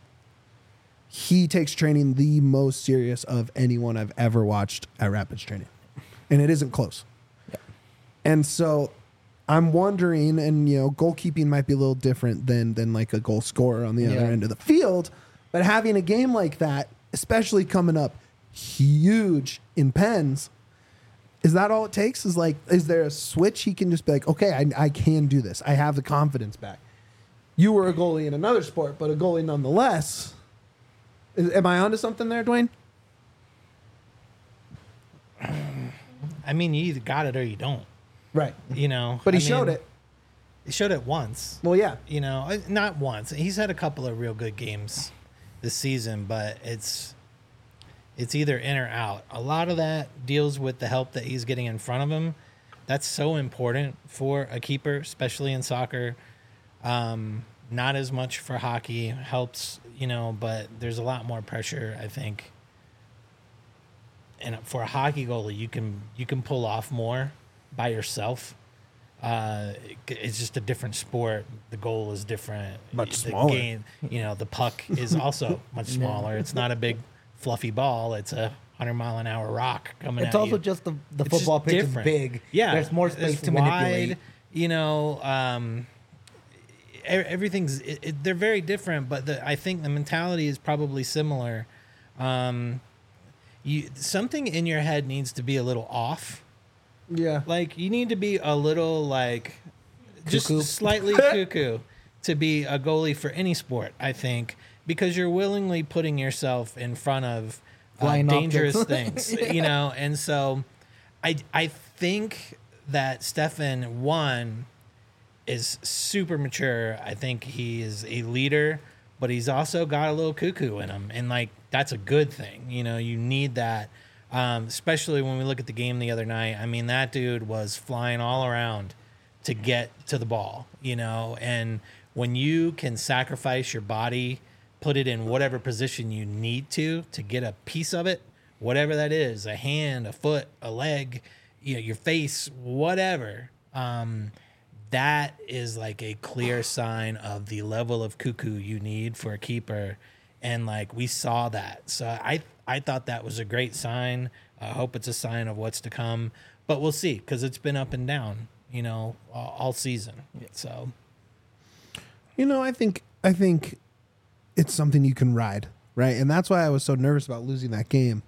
Speaker 1: He takes training the most serious of anyone I've ever watched at Rapids training. And it isn't close. Yeah. And so I'm wondering, and you know, goalkeeping might be a little different than than like a goal scorer on the other
Speaker 2: yeah.
Speaker 1: end of the field, but having a game like that, especially coming up huge in Pens, is that all it takes? Is like, is there a switch he can just be like, okay, I, I can do this. I have the confidence back. You were a goalie in another sport, but a goalie nonetheless. Is, am I onto something there, Dwayne?
Speaker 3: I mean, you either got it or you don't.
Speaker 1: Right.
Speaker 3: You know.
Speaker 1: But he
Speaker 3: I
Speaker 1: showed
Speaker 3: mean,
Speaker 1: it.
Speaker 3: He showed it once.
Speaker 1: Well, yeah.
Speaker 3: You know, not once. He's had a couple of real good games this season, but it's it's either in or out. A lot of that deals with the help that he's getting in front of him. That's so important for a keeper, especially in soccer. Um, not as much for hockey. Helps, you know, but there's a lot more pressure, I think. and for a hockey goalie, you can you can pull off more by yourself. Uh, it's just a different sport. The goal is different.
Speaker 1: Much
Speaker 3: the
Speaker 1: smaller.
Speaker 3: Game, you know, the puck is also much smaller. It's not a big fluffy ball. It's a hundred mile an hour rock coming.
Speaker 2: It's
Speaker 3: at
Speaker 2: also
Speaker 3: you.
Speaker 2: just the the
Speaker 3: It's just
Speaker 2: football pitch
Speaker 3: different.
Speaker 2: is big.
Speaker 3: Yeah,
Speaker 2: there's more space
Speaker 3: it's
Speaker 2: to
Speaker 3: wide,
Speaker 2: manipulate.
Speaker 3: You know, um, e- everything's it, it, they're very different, but the, I think the mentality is probably similar. Um, you something in your head needs to be a little off.
Speaker 1: Yeah.
Speaker 3: Like you need to be a little like just
Speaker 2: Cuckoo.
Speaker 3: slightly cuckoo to be a goalie for any sport, I think, because you're willingly putting yourself in front of uh,
Speaker 2: Flying
Speaker 3: dangerous
Speaker 2: objects.
Speaker 3: things, you know. And so I I think that Stefan one is super mature. I think he is a leader, but he's also got a little cuckoo in him, and like that's a good thing. You know, you need that. Um, especially when we look at the game the other night. I mean, that dude was flying all around to get to the ball, you know, and when you can sacrifice your body, put it in whatever position you need to, to get a piece of it, whatever that is, a hand, a foot, a leg, you know, your face, whatever, um, that is like a clear sign of the level of cuckoo you need for a keeper. And like, we saw that. So I, I thought that was a great sign. I hope it's a sign of what's to come, but we'll see. Cause it's been up and down, you know, all, all season. So,
Speaker 1: You know, I think I think it's something you can ride, right? And that's why I was so nervous about losing that game.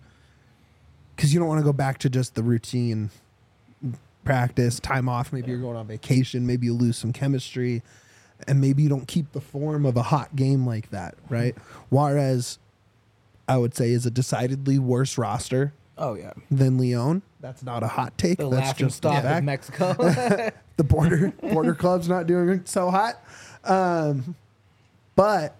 Speaker 1: Cause you don't want to go back to just the routine practice, time off, maybe you're going on vacation, maybe you lose some chemistry, and maybe you don't keep the form of a hot game like that, right? Juarez, I would say, is a decidedly worse roster
Speaker 2: Oh yeah,
Speaker 1: than Leon. That's not a hot take.
Speaker 2: the
Speaker 1: That's
Speaker 2: laughing
Speaker 1: just
Speaker 2: stock
Speaker 1: a
Speaker 2: of
Speaker 1: fact.
Speaker 2: Mexico.
Speaker 1: The border border club's not doing so hot. Um, but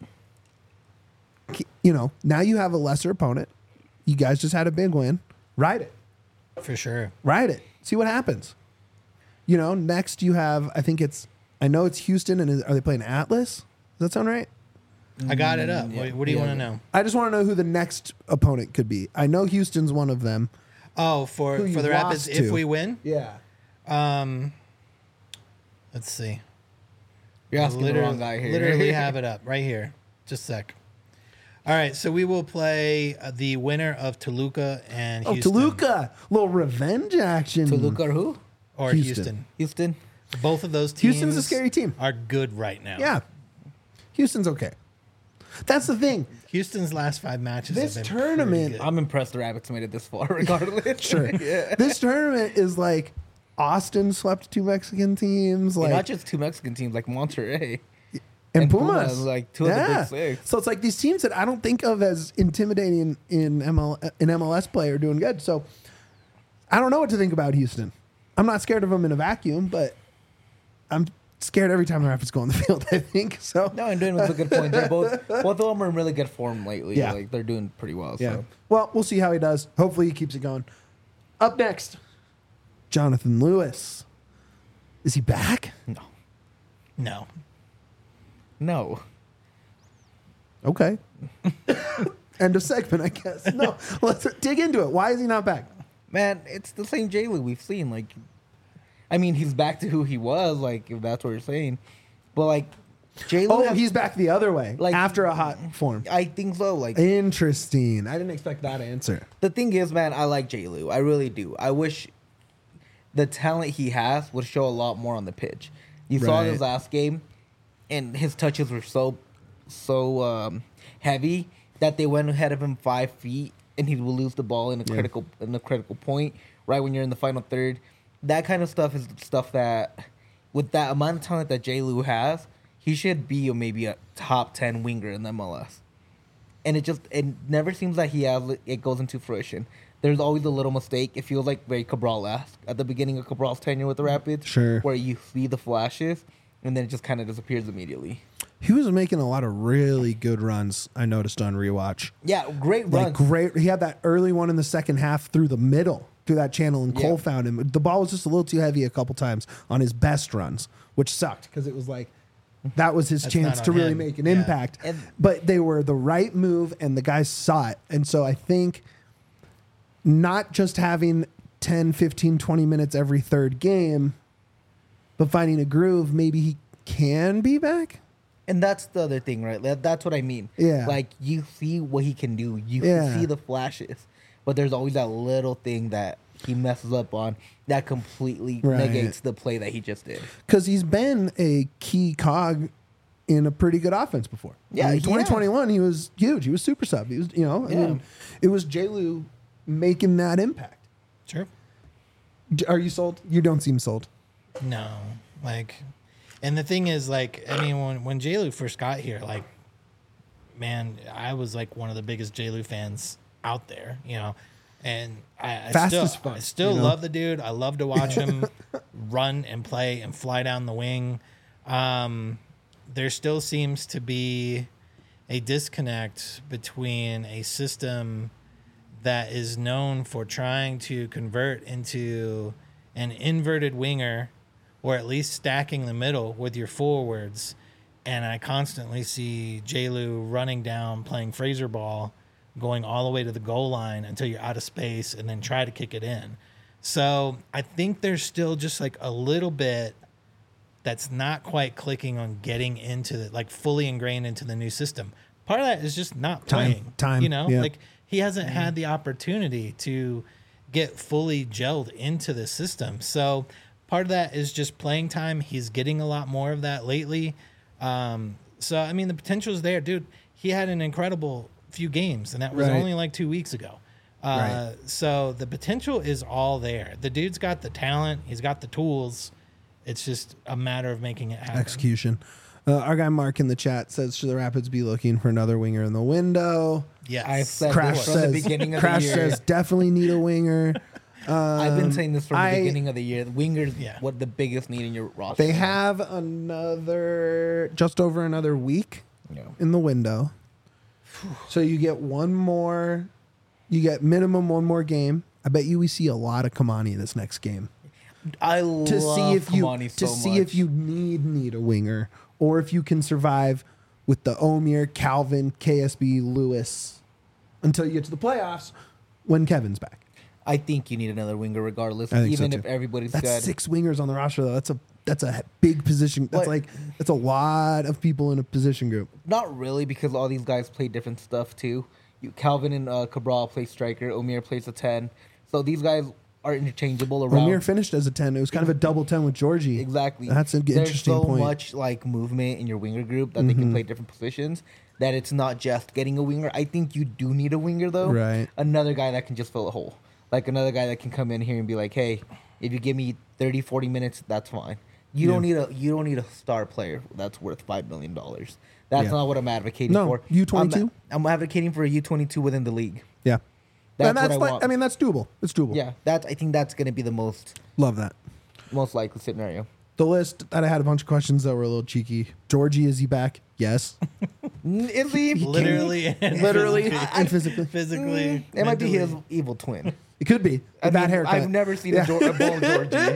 Speaker 1: you know, now you have a lesser opponent. You guys just had a big win. Ride it.
Speaker 3: for sure.
Speaker 1: Ride it. See what happens. You know, next you have, I think it's, I know it's Houston, and is, are they playing Atlas? Does that sound right?
Speaker 3: I got it up.
Speaker 2: yeah.
Speaker 3: What, what do you
Speaker 2: Yeah.
Speaker 3: want to know?
Speaker 1: I just want to know who the next opponent could be. I know Houston's one of them.
Speaker 3: Oh, for,
Speaker 1: Who you
Speaker 3: for the Rapids,
Speaker 1: lost
Speaker 3: if
Speaker 1: to.
Speaker 3: we win?
Speaker 1: Yeah.
Speaker 3: Um, let's see.
Speaker 2: You're asking the
Speaker 3: literally,
Speaker 2: wrong guy here.
Speaker 3: Literally have it up right here. Just a sec. All right, so we will play uh, the winner of Toluca and
Speaker 1: Oh,
Speaker 3: Houston.
Speaker 1: Toluca. Little revenge action.
Speaker 2: Toluca or who?
Speaker 3: Or
Speaker 1: Houston.
Speaker 3: Houston.
Speaker 2: Houston.
Speaker 3: Both of those teams
Speaker 1: Houston's a scary team.
Speaker 3: are good right now.
Speaker 1: Yeah. Houston's okay. That's the thing.
Speaker 3: Houston's last five matches
Speaker 1: This
Speaker 3: have been
Speaker 1: tournament-
Speaker 3: pretty good.
Speaker 2: I'm impressed the Rabbits made it this far, regardless.
Speaker 1: Sure.
Speaker 2: yeah.
Speaker 1: This tournament is like Austin swept two Mexican teams,
Speaker 2: And
Speaker 1: like
Speaker 2: not just two Mexican teams, like Monterrey.
Speaker 1: and,
Speaker 2: and
Speaker 1: Pumas.
Speaker 2: Pumas, like, two of the big six.
Speaker 1: So it's like these teams that I don't think of as intimidating in M L in M L S play are doing good. So I don't know what to think about Houston. I'm not scared of them in a vacuum, but I'm scared every time the Rapids go on the field, I think. So
Speaker 2: No, and doing was a good point. They're both both of them are in really good form lately.
Speaker 1: Yeah.
Speaker 2: Like they're doing pretty well.
Speaker 1: yeah.
Speaker 2: So
Speaker 1: Well, we'll see how he does. Hopefully he keeps it going. Up next, Jonathan Lewis. Is he back?
Speaker 2: no.
Speaker 3: No.
Speaker 2: No.
Speaker 1: Okay. End of segment, I guess. No, let's dig into it. Why is he not back?
Speaker 2: Man, it's the same J. Lou we've seen. Like I mean, he's back to who he was, like if that's what you're saying. But like J. Lou
Speaker 1: Oh,
Speaker 2: has-
Speaker 1: he's back the other way,
Speaker 2: Like-
Speaker 1: after a hot form.
Speaker 2: I think so. Like
Speaker 1: Interesting. I didn't expect that answer.
Speaker 2: the thing is, man, I like J. Lou. I really do. I wish the talent he has would show a lot more on the pitch. You saw
Speaker 1: Right.
Speaker 2: his last game, and his touches were so, so um, heavy that they went ahead of him five feet, and he will lose the ball in a
Speaker 1: Yeah.
Speaker 2: critical in a critical point, right when you're in the final third. That kind of stuff is stuff that, with that amount of talent that J. Lou has, he should be a, maybe a top ten winger in the M L S. And it just it never seems like he has it goes into fruition. There's always a little mistake. It feels like very Cabral-esque at the beginning of Cabral's tenure with the Rapids.
Speaker 1: Sure.
Speaker 2: Where you see the flashes, and then it just kind of disappears immediately.
Speaker 1: He was making a lot of really good runs, I noticed on rewatch.
Speaker 2: Yeah, great
Speaker 1: Like
Speaker 2: runs.
Speaker 1: great. He had that early one in the second half through the middle, through that channel, and
Speaker 2: Yeah.
Speaker 1: Cole found him. The ball was just a little too heavy a couple times on his best runs, which sucked because it was like that was his
Speaker 3: That's
Speaker 1: chance
Speaker 3: not
Speaker 1: to
Speaker 3: on
Speaker 1: really
Speaker 3: him.
Speaker 1: make an
Speaker 3: Yeah.
Speaker 1: impact.
Speaker 2: And-
Speaker 1: but they were the right move, and the guys saw it. And so I think not just having ten, fifteen, twenty minutes every third game, but finding a groove, maybe he can be back.
Speaker 2: And that's the other thing, right? That, that's what I mean.
Speaker 1: Yeah.
Speaker 2: Like, you see what he can do. You
Speaker 1: Yeah.
Speaker 2: can see the flashes. But there's always that little thing that he messes up on that completely
Speaker 1: Right.
Speaker 2: negates the play that he just did.
Speaker 1: Because he's been a key cog in a pretty good offense before.
Speaker 2: Yeah,
Speaker 1: I mean,
Speaker 2: he
Speaker 1: twenty twenty-one, he was huge. He was super sub. He was, you know, I
Speaker 2: Yeah.
Speaker 1: mean, it was J. Lou making that impact.
Speaker 3: Sure.
Speaker 1: D- Are you sold? You don't seem sold.
Speaker 3: No, like, and the thing is, like, I mean, when when J. Lou first got here, like, man, I was like one of the biggest J. Lou fans out there, you know, and I, I
Speaker 1: Fast
Speaker 3: still,
Speaker 1: as fuck,
Speaker 3: I still
Speaker 1: you know?
Speaker 3: love the dude. I love to watch him run and play and fly down the wing. Um, there still seems to be a disconnect between a system that is known for trying to convert into an inverted winger, or at least stacking the middle with your forwards. And I constantly see J. Lou running down, playing Fraser ball, going all the way to the goal line until you're out of space and then try to kick it in. So I think there's still just like a little bit that's not quite clicking on getting into the, like fully ingrained into the new system. Part of that is just not
Speaker 1: Time.
Speaker 3: playing.
Speaker 1: Time,
Speaker 3: You know,
Speaker 1: yeah.
Speaker 3: like he hasn't had the opportunity to get fully gelled into the system. So part of that is just playing time. He's getting a lot more of that lately. Um, so, I mean, the potential is there. Dude, he had an incredible few games, and that was
Speaker 1: Right.
Speaker 3: only like two weeks ago. Uh,
Speaker 1: Right.
Speaker 3: So the potential is all there. The dude's got the talent. He's got the tools. It's just a matter of making it happen.
Speaker 1: Execution. Uh, our guy Mark in the chat says, should the Rapids be looking for another winger in the window?
Speaker 3: Yes.
Speaker 2: I've said
Speaker 1: Crash
Speaker 2: this from
Speaker 1: says,
Speaker 2: the beginning of
Speaker 1: Crash
Speaker 2: the year.
Speaker 1: says definitely need a winger.
Speaker 2: I've been saying this from
Speaker 1: I-
Speaker 2: the beginning of the year. Wingers,
Speaker 3: Yeah.
Speaker 2: what the biggest need in your roster.
Speaker 1: They have another, just over another week
Speaker 2: Yeah.
Speaker 1: in the window. So you get one more, you get minimum one more game. I bet you we see a lot of Kamani this next game.
Speaker 2: I
Speaker 1: To
Speaker 2: love
Speaker 1: see if you
Speaker 2: Kamani
Speaker 1: to
Speaker 2: so
Speaker 1: see
Speaker 2: much.
Speaker 1: if you need need a winger or if you can survive with the Omir, Calvin, K S B, Lewis until you get to the playoffs when Kevin's back.
Speaker 2: I think you need another winger regardless,
Speaker 1: I think so,
Speaker 2: even
Speaker 1: too.
Speaker 2: if everybody's
Speaker 1: That's
Speaker 2: good.
Speaker 1: six wingers on the roster though. That's a that's a big position. That's
Speaker 2: What?
Speaker 1: like that's a lot of people in a position group.
Speaker 2: Not really, because all these guys play different stuff too. You, Calvin and uh, Cabral play striker. Omir plays a ten. So these guys are interchangeable around.
Speaker 1: Omir finished as a ten. It was kind of a double ten with Georgie.
Speaker 2: Exactly.
Speaker 1: That's an
Speaker 2: There's
Speaker 1: interesting
Speaker 2: so
Speaker 1: point.
Speaker 2: much like movement in your winger group that they can play different positions. That it's not just getting a winger. I think you do need a winger though.
Speaker 1: Right.
Speaker 2: Another guy that can just fill a hole. Like another guy that can come in here and be like, hey, if you give me thirty, forty minutes, that's fine. You don't need a you don't need a star player that's worth five million dollars. That's
Speaker 1: Yeah.
Speaker 2: not what I'm advocating
Speaker 1: No,
Speaker 2: for.
Speaker 1: U twenty-two?
Speaker 2: I'm, I'm advocating for a U twenty-two within the league.
Speaker 1: Yeah.
Speaker 2: That's
Speaker 1: and that's
Speaker 2: what I
Speaker 1: like
Speaker 2: want.
Speaker 1: I mean that's doable. It's doable.
Speaker 2: Yeah, that's I think that's gonna be the most
Speaker 1: Love that.
Speaker 2: most likely scenario.
Speaker 1: The list that I had a bunch of questions that were a little cheeky. Georgie, is he back? Yes.
Speaker 2: N- Is he?
Speaker 3: Literally. and
Speaker 1: Literally
Speaker 3: physically.
Speaker 1: and physically.
Speaker 3: Physically.
Speaker 2: It might be his
Speaker 3: mentally.
Speaker 2: evil twin.
Speaker 1: It could be.
Speaker 2: I
Speaker 1: With that
Speaker 2: mean,
Speaker 1: haircut.
Speaker 2: I've never seen a, Geor- a bone Georgie.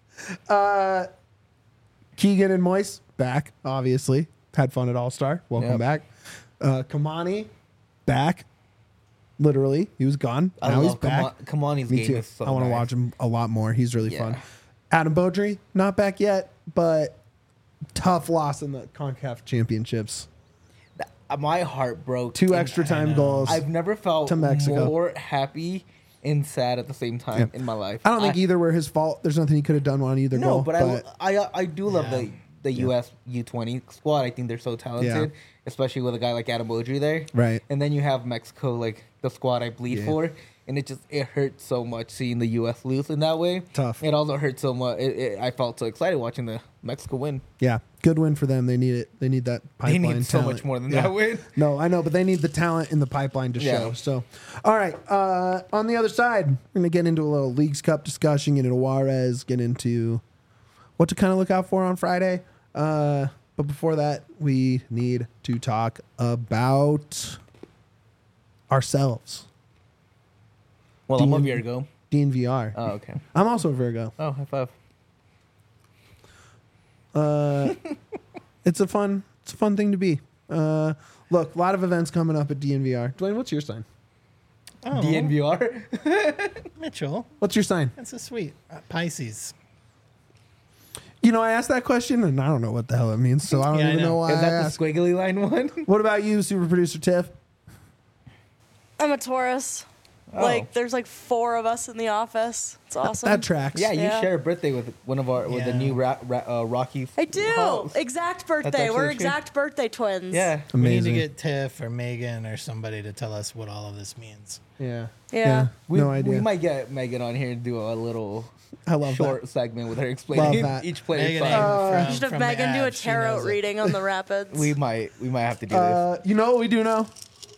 Speaker 1: Keegan and Moise back, obviously. Had fun at All Star. Welcome
Speaker 2: Yep.
Speaker 1: back. Uh, Kamani back. Literally, he was gone.
Speaker 2: I
Speaker 1: now he's
Speaker 2: love
Speaker 1: back.
Speaker 2: Kama- Kamani's
Speaker 1: Me
Speaker 2: game
Speaker 1: too.
Speaker 2: is so
Speaker 1: I want to
Speaker 2: nice.
Speaker 1: watch him a lot more. He's really
Speaker 2: Yeah.
Speaker 1: fun. Adam Beaudry not back yet, but tough loss in the CONCACAF championships.
Speaker 2: Uh, My heart broke.
Speaker 1: Two
Speaker 2: in-
Speaker 1: extra time
Speaker 3: know.
Speaker 1: goals.
Speaker 2: I've never felt
Speaker 1: to Mexico.
Speaker 2: more happy and sad at the same time
Speaker 1: Yeah.
Speaker 2: in my life.
Speaker 1: I don't think either were his fault. There's nothing he could have done on either
Speaker 2: No,
Speaker 1: goal.
Speaker 2: but, I, I I do love
Speaker 3: Yeah.
Speaker 2: the the U S U twenty squad. I think they're so talented, especially with a guy like Adam Beaudry there.
Speaker 1: Right.
Speaker 2: And then you have Mexico, like the squad I bleed
Speaker 1: Yeah.
Speaker 2: for, and it just it hurts so much seeing the U S lose in that way.
Speaker 1: Tough.
Speaker 2: It also hurt so much. It, it, I felt so excited watching the Mexico win.
Speaker 1: yeah, good win for them. They need it. They need that
Speaker 2: They
Speaker 1: pipeline.
Speaker 2: need so
Speaker 1: talent.
Speaker 2: much more than
Speaker 1: Yeah.
Speaker 2: that win.
Speaker 1: No, I know, but they need the talent in the pipeline to
Speaker 2: Yeah.
Speaker 1: show. So, all right. Uh, on the other side, we're going to get into a little Leagues Cup discussion, get into Juarez, get into what to kind of look out for on Friday. Uh, but before that, we need to talk about ourselves.
Speaker 2: Well, I'm a
Speaker 1: Dean-
Speaker 2: Virgo.
Speaker 1: D N V R.
Speaker 2: Oh, okay.
Speaker 1: I'm also a Virgo.
Speaker 2: Oh, high five.
Speaker 1: Uh, it's a fun, it's a fun thing to be. Uh, look, a lot of events coming up at D N V R. Dwayne, what's your sign?
Speaker 3: Oh,
Speaker 2: D N V R.
Speaker 3: Mitchell.
Speaker 1: What's your sign?
Speaker 3: That's a sweet uh, Pisces.
Speaker 1: You know, I asked that question, and I don't know what the hell it means, so I don't
Speaker 3: Yeah, I
Speaker 1: even
Speaker 3: know.
Speaker 1: know why
Speaker 2: Is
Speaker 1: I
Speaker 2: that
Speaker 1: asked.
Speaker 2: the squiggly line one?
Speaker 1: What about you, super producer Tiff?
Speaker 4: I'm a Taurus.
Speaker 2: Oh.
Speaker 4: Like, there's like four of us in the office. It's awesome.
Speaker 1: That tracks.
Speaker 2: Yeah, you
Speaker 4: Yeah.
Speaker 2: share a birthday with one of our with the
Speaker 3: Yeah.
Speaker 2: new ra- ra- uh, Rockies.
Speaker 4: I do.
Speaker 2: host.
Speaker 4: Exact birthday.
Speaker 2: actually
Speaker 4: We're
Speaker 2: true.
Speaker 4: exact birthday twins.
Speaker 2: Yeah.
Speaker 3: We need
Speaker 1: Amazing.
Speaker 3: to get Tiff or Megan or somebody to tell us what all of this means.
Speaker 1: Yeah.
Speaker 4: Yeah.
Speaker 2: We,
Speaker 1: no idea.
Speaker 2: We might get Megan on here and do a little
Speaker 1: I love
Speaker 2: short
Speaker 1: that.
Speaker 2: segment with her explaining
Speaker 1: that.
Speaker 2: each player's
Speaker 3: Megan
Speaker 2: sign.
Speaker 3: Aiden
Speaker 4: You
Speaker 3: from-
Speaker 4: should have
Speaker 3: from
Speaker 4: Megan do a
Speaker 3: Abs, she
Speaker 4: tarot
Speaker 3: knows it.
Speaker 4: reading on the Rapids.
Speaker 2: we might we might have to do this.
Speaker 1: Uh, you know what we do know?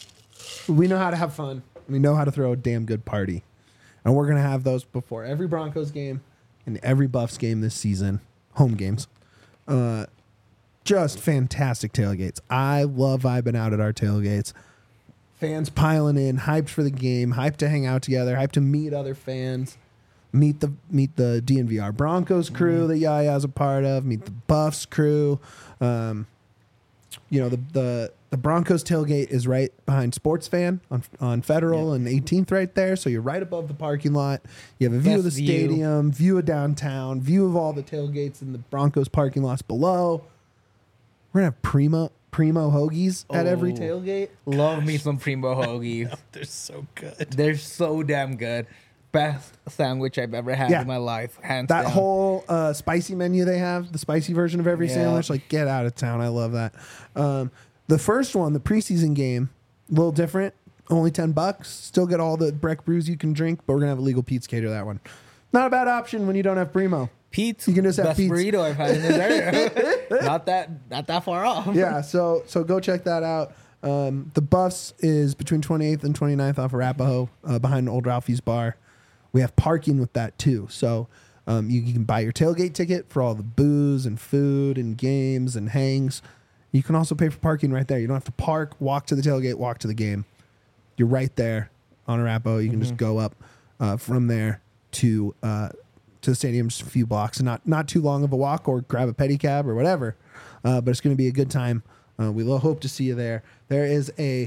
Speaker 1: We know how to have fun. We know how to throw a damn good party. And we're going to have those before every Broncos game and every Buffs game this season. Home games. Uh, just fantastic tailgates. I love vibing out at our tailgates. Fans piling in, hyped for the game, hyped to hang out together, hyped to meet other fans, meet the meet the D N V R Broncos crew that Yaya's a part of, meet the Buffs crew. Um, you know, the, the the Broncos tailgate is right behind Sports Fan on on Federal and eighteenth right there. So you're right above the parking lot. You have a view of the
Speaker 2: Best view.
Speaker 1: stadium, view of downtown, view of all the tailgates in the Broncos parking lots below. We're going to have primo, primo hoagies at every
Speaker 2: Oh.
Speaker 1: tailgate.
Speaker 2: Love me some Primo hoagies.
Speaker 3: They're so good.
Speaker 2: They're so damn good. Best sandwich I've ever had
Speaker 1: Yeah.
Speaker 2: in my life, hands
Speaker 1: That
Speaker 2: down.
Speaker 1: whole uh, spicy menu they have, the spicy version of every
Speaker 2: Yeah.
Speaker 1: sandwich, like get out of town. I love that. Um, the first one, the preseason game, a little different. Only ten bucks. Still get all the Breck brews you can drink, but we're gonna have a legal Pete's cater that one. Not a bad option when you don't have Primo.
Speaker 2: Pete's,
Speaker 1: You can just have
Speaker 2: best
Speaker 1: Pete's.
Speaker 2: burrito I've had in this area. not that not that far off.
Speaker 1: Yeah, so so go check that out. Um, the Buffs is between twenty-eighth and twenty-ninth off of Arapahoe, uh, behind Old Ralphie's bar. We have parking with that too. So um, you, you can buy your tailgate ticket for all the booze and food and games and hangs. You can also pay for parking right there. You don't have to park, walk to the tailgate, walk to the game. You're right there on Arapahoe. You can just go up uh, from there to uh, to the stadium, just a few blocks, and not not too long of a walk, or grab a pedicab or whatever. Uh, but it's going to be a good time. Uh, we will hope to see you there. There is a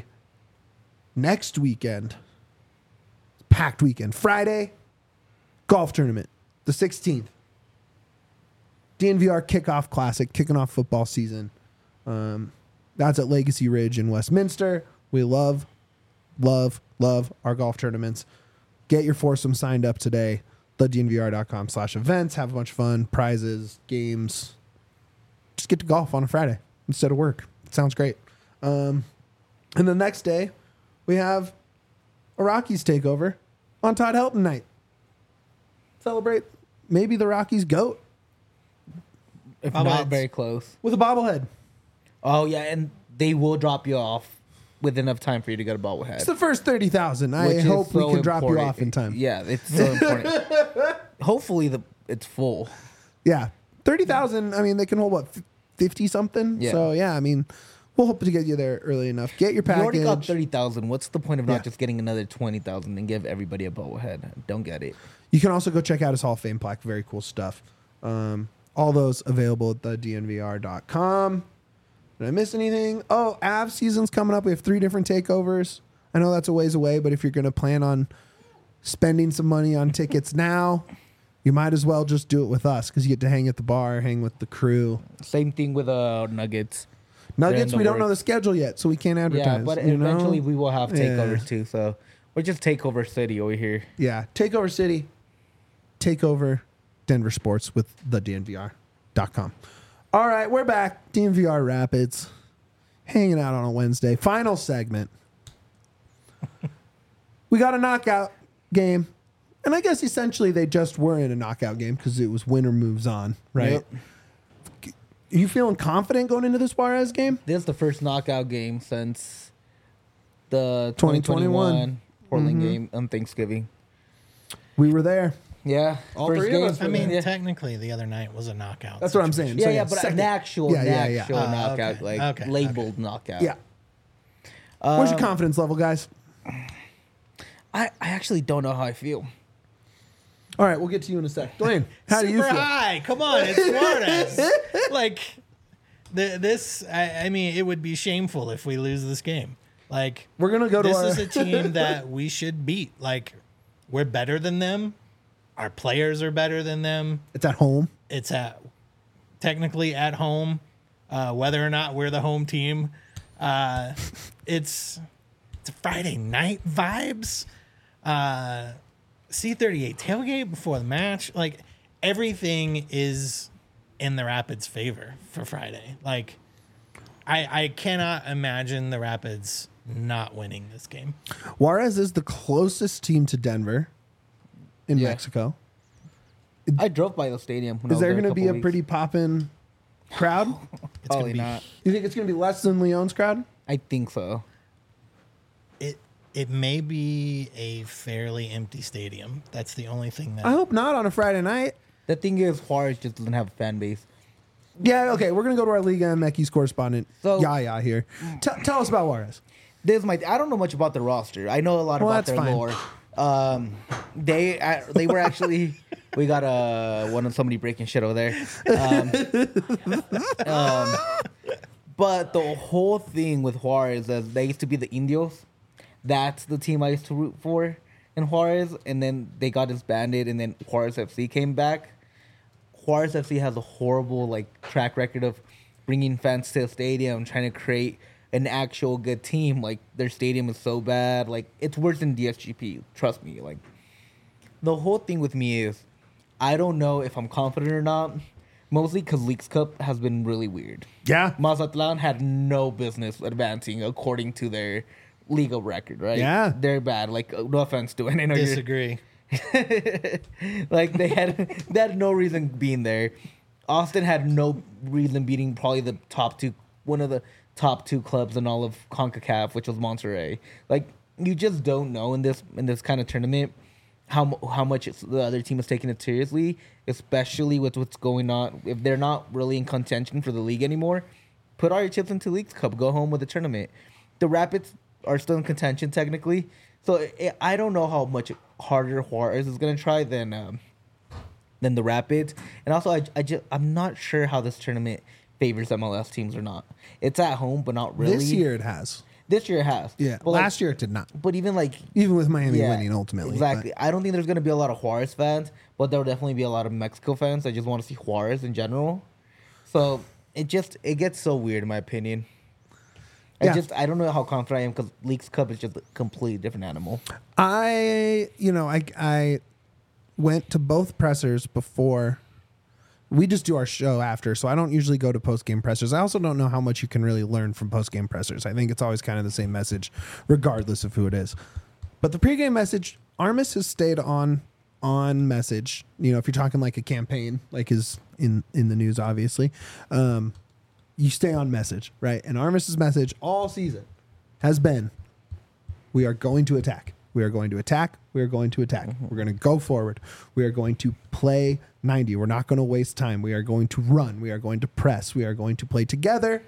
Speaker 1: next weekend, packed weekend, Friday golf tournament, the sixteenth. D N V R Kickoff Classic, kicking off football season. Um, that's at Legacy Ridge in Westminster. We love, love, love our golf tournaments. Get your foursome signed up today. the D N V R dot com slash events. Have a bunch of fun, prizes, games. Just get to golf on a Friday instead of work. It sounds great. Um, and the next day, we have a Rockies takeover on Todd Helton night. Celebrate maybe the Rockies GOAT
Speaker 2: If
Speaker 3: Bobbleheads.
Speaker 2: not very close.
Speaker 1: with a bobblehead.
Speaker 2: Oh yeah, and they will drop you off with enough time for you to get a bobblehead.
Speaker 1: It's the first thirty thousand. I
Speaker 2: which is
Speaker 1: hope we
Speaker 2: so
Speaker 1: can drop you
Speaker 2: important.
Speaker 1: off in time.
Speaker 2: Yeah, it's so important. Hopefully the it's full.
Speaker 1: Yeah. thirty thousand, I mean, they can hold, what, fifty something?
Speaker 2: Yeah.
Speaker 1: So, yeah, I mean, we'll hope to get you there early enough. Get your
Speaker 2: You already got
Speaker 1: package.
Speaker 2: thirty thousand. What's the point of
Speaker 1: Yeah.
Speaker 2: not just getting another twenty thousand and give everybody a bobblehead? Don't get it.
Speaker 1: You can also go check out his Hall of Fame plaque. Very cool stuff. Um, all those available at the D N V R dot com. Did I miss anything? Oh, Avs season's coming up. We have three different takeovers. I know that's a ways away, but if you're going to plan on spending some money on tickets now, you might as well just do it with us because you get to hang at the bar, hang with the crew.
Speaker 2: Same thing with uh Nuggets.
Speaker 1: Nuggets,
Speaker 2: the
Speaker 1: we don't know the
Speaker 2: works.
Speaker 1: schedule yet, so we can't advertise.
Speaker 2: Yeah, but
Speaker 1: you know?
Speaker 2: eventually we will have
Speaker 1: Yeah.
Speaker 2: takeovers too. So we're just takeover city over here.
Speaker 1: Yeah, Takeover City, Takeover Denver Sports with the D N V R dot com. All right, we're back. D N V R Rapids, hanging out on a Wednesday. Final segment. We got a knockout game, and I guess essentially they just were in a knockout game because it was winner moves on, right?
Speaker 2: Yep.
Speaker 1: Are you feeling confident going into this Juarez game?
Speaker 2: This is the first knockout game since the
Speaker 1: twenty
Speaker 2: twenty
Speaker 1: twenty-one.
Speaker 2: twenty-one Portland
Speaker 1: Mhm.
Speaker 2: game on Thanksgiving.
Speaker 1: We were there.
Speaker 2: Yeah,
Speaker 1: All
Speaker 2: first
Speaker 1: three of
Speaker 2: game.
Speaker 1: us
Speaker 3: I mean,
Speaker 2: yeah.
Speaker 3: technically, the other night was a knockout.
Speaker 1: That's what I'm saying.
Speaker 3: situation.
Speaker 2: yeah,
Speaker 1: So,
Speaker 2: yeah,
Speaker 1: yeah,
Speaker 2: but
Speaker 1: second-
Speaker 2: an actual,
Speaker 1: Yeah,
Speaker 2: an
Speaker 1: yeah, yeah.
Speaker 2: actual
Speaker 3: Oh,
Speaker 2: knockout,
Speaker 3: okay,
Speaker 2: like
Speaker 3: okay,
Speaker 2: labeled knockout.
Speaker 1: Yeah. Where's your
Speaker 2: Um,
Speaker 1: confidence level, guys?
Speaker 2: I, I actually don't know how I feel.
Speaker 1: All right, we'll get to you in a sec. Dwayne, how do you
Speaker 3: Super
Speaker 1: feel?
Speaker 3: high. Come on, it's Suarez. like, the, this, I, I mean, it would be shameful if we lose this game. Like
Speaker 1: We're gonna go to
Speaker 3: this
Speaker 1: our-
Speaker 3: is a team that we should beat. Like we're better than them. Our players are better than them.
Speaker 1: It's at home.
Speaker 3: It's at technically at home, uh, whether or not we're the home team. Uh, it's it's a Friday night vibes. Uh, C thirty-eight tailgate before the match. Like everything is in the Rapids' favor for Friday. Like I I cannot imagine the Rapids not winning this game.
Speaker 1: Juarez is the closest team to Denver in
Speaker 2: Yeah.
Speaker 1: Mexico.
Speaker 2: I drove by the stadium. When I
Speaker 1: Is
Speaker 2: was
Speaker 1: there
Speaker 2: there
Speaker 1: going to be
Speaker 2: couple
Speaker 1: a
Speaker 2: weeks.
Speaker 1: pretty poppin' crowd?
Speaker 3: It's
Speaker 2: Probably
Speaker 3: gonna be
Speaker 2: not.
Speaker 1: You think it's going to be less than Leon's crowd?
Speaker 2: I think so.
Speaker 3: it it may be a fairly empty stadium. That's the only thing that
Speaker 1: I hope not on a Friday night.
Speaker 2: The thing is, Juarez just doesn't have a fan base.
Speaker 1: Yeah, okay. We're going to go to our Liga M X correspondent,
Speaker 2: So-
Speaker 1: Yaya, here. T- tell us about Juarez.
Speaker 2: This is my. I don't know much about the roster. I know a lot
Speaker 1: Well,
Speaker 2: about
Speaker 1: that's
Speaker 2: their
Speaker 1: fine.
Speaker 2: lore. Um, they uh, they were actually. We got uh, one of somebody breaking shit over there. Um, um, but the whole thing with Juarez is they used to be the Indios. That's the team I used to root for in Juarez, and then they got disbanded, and then Juarez F C came back. Juarez F C has a horrible like track record of bringing fans to the stadium, trying to create an actual good team. Like their stadium is so bad, like it's worse than D S G P. Trust me. Like the whole thing with me is, I don't know if I'm confident or not. Mostly because Leagues Cup has been really weird.
Speaker 1: Yeah.
Speaker 2: Mazatlan had no business advancing according to their legal record, right?
Speaker 1: Yeah.
Speaker 2: They're bad. Like uh, no offense to it. I know you're
Speaker 3: disagree.
Speaker 2: like they had they had no reason being there. Austin had no reason beating probably the top two, one of the top two clubs in all of CONCACAF, which was Monterrey. Like you just don't know in this in this kind of tournament how mu- how much it's, the other team is taking it seriously, especially with what's going on. If they're not really in contention for the league anymore, put all your chips into Leagues Cup. Go home with the tournament. The Rapids are still in contention technically, so it, I don't know how much harder Juarez is gonna try than um, than the Rapids. And also, I, I just I'm not sure how this tournament favors M L S teams or not. It's at home, but not really.
Speaker 1: This year it has.
Speaker 2: This year it has.
Speaker 1: Yeah.
Speaker 2: But like-
Speaker 1: Last year it did not.
Speaker 2: But even like
Speaker 1: Even with Miami
Speaker 2: yeah,
Speaker 1: winning ultimately.
Speaker 2: Exactly. I don't think there's gonna be a lot of Juarez fans, but there will definitely be a lot of Mexico fans that just want to see Juarez in general. So it just it gets so weird in my opinion. I
Speaker 1: Yeah.
Speaker 2: just I don't know how confident I am because Leagues Cup is just a completely different animal.
Speaker 1: But I, you know, I, I went to both pressers before. We just do our show after, so I don't usually go to post game pressers. I also don't know how much you can really learn from post game pressers. I think it's always kind of the same message, regardless of who it is. But the pregame message, Armis has stayed on on message. You know, if you're talking like a campaign, like is in in the news, obviously, um, you stay on message, right? And Armis's message all season has been, we are going to attack. We are going to attack. We are going to attack. We're going to go forward. We are going to play ninety. We're not going to waste time. We are going to run. We are going to press. We are going to play together.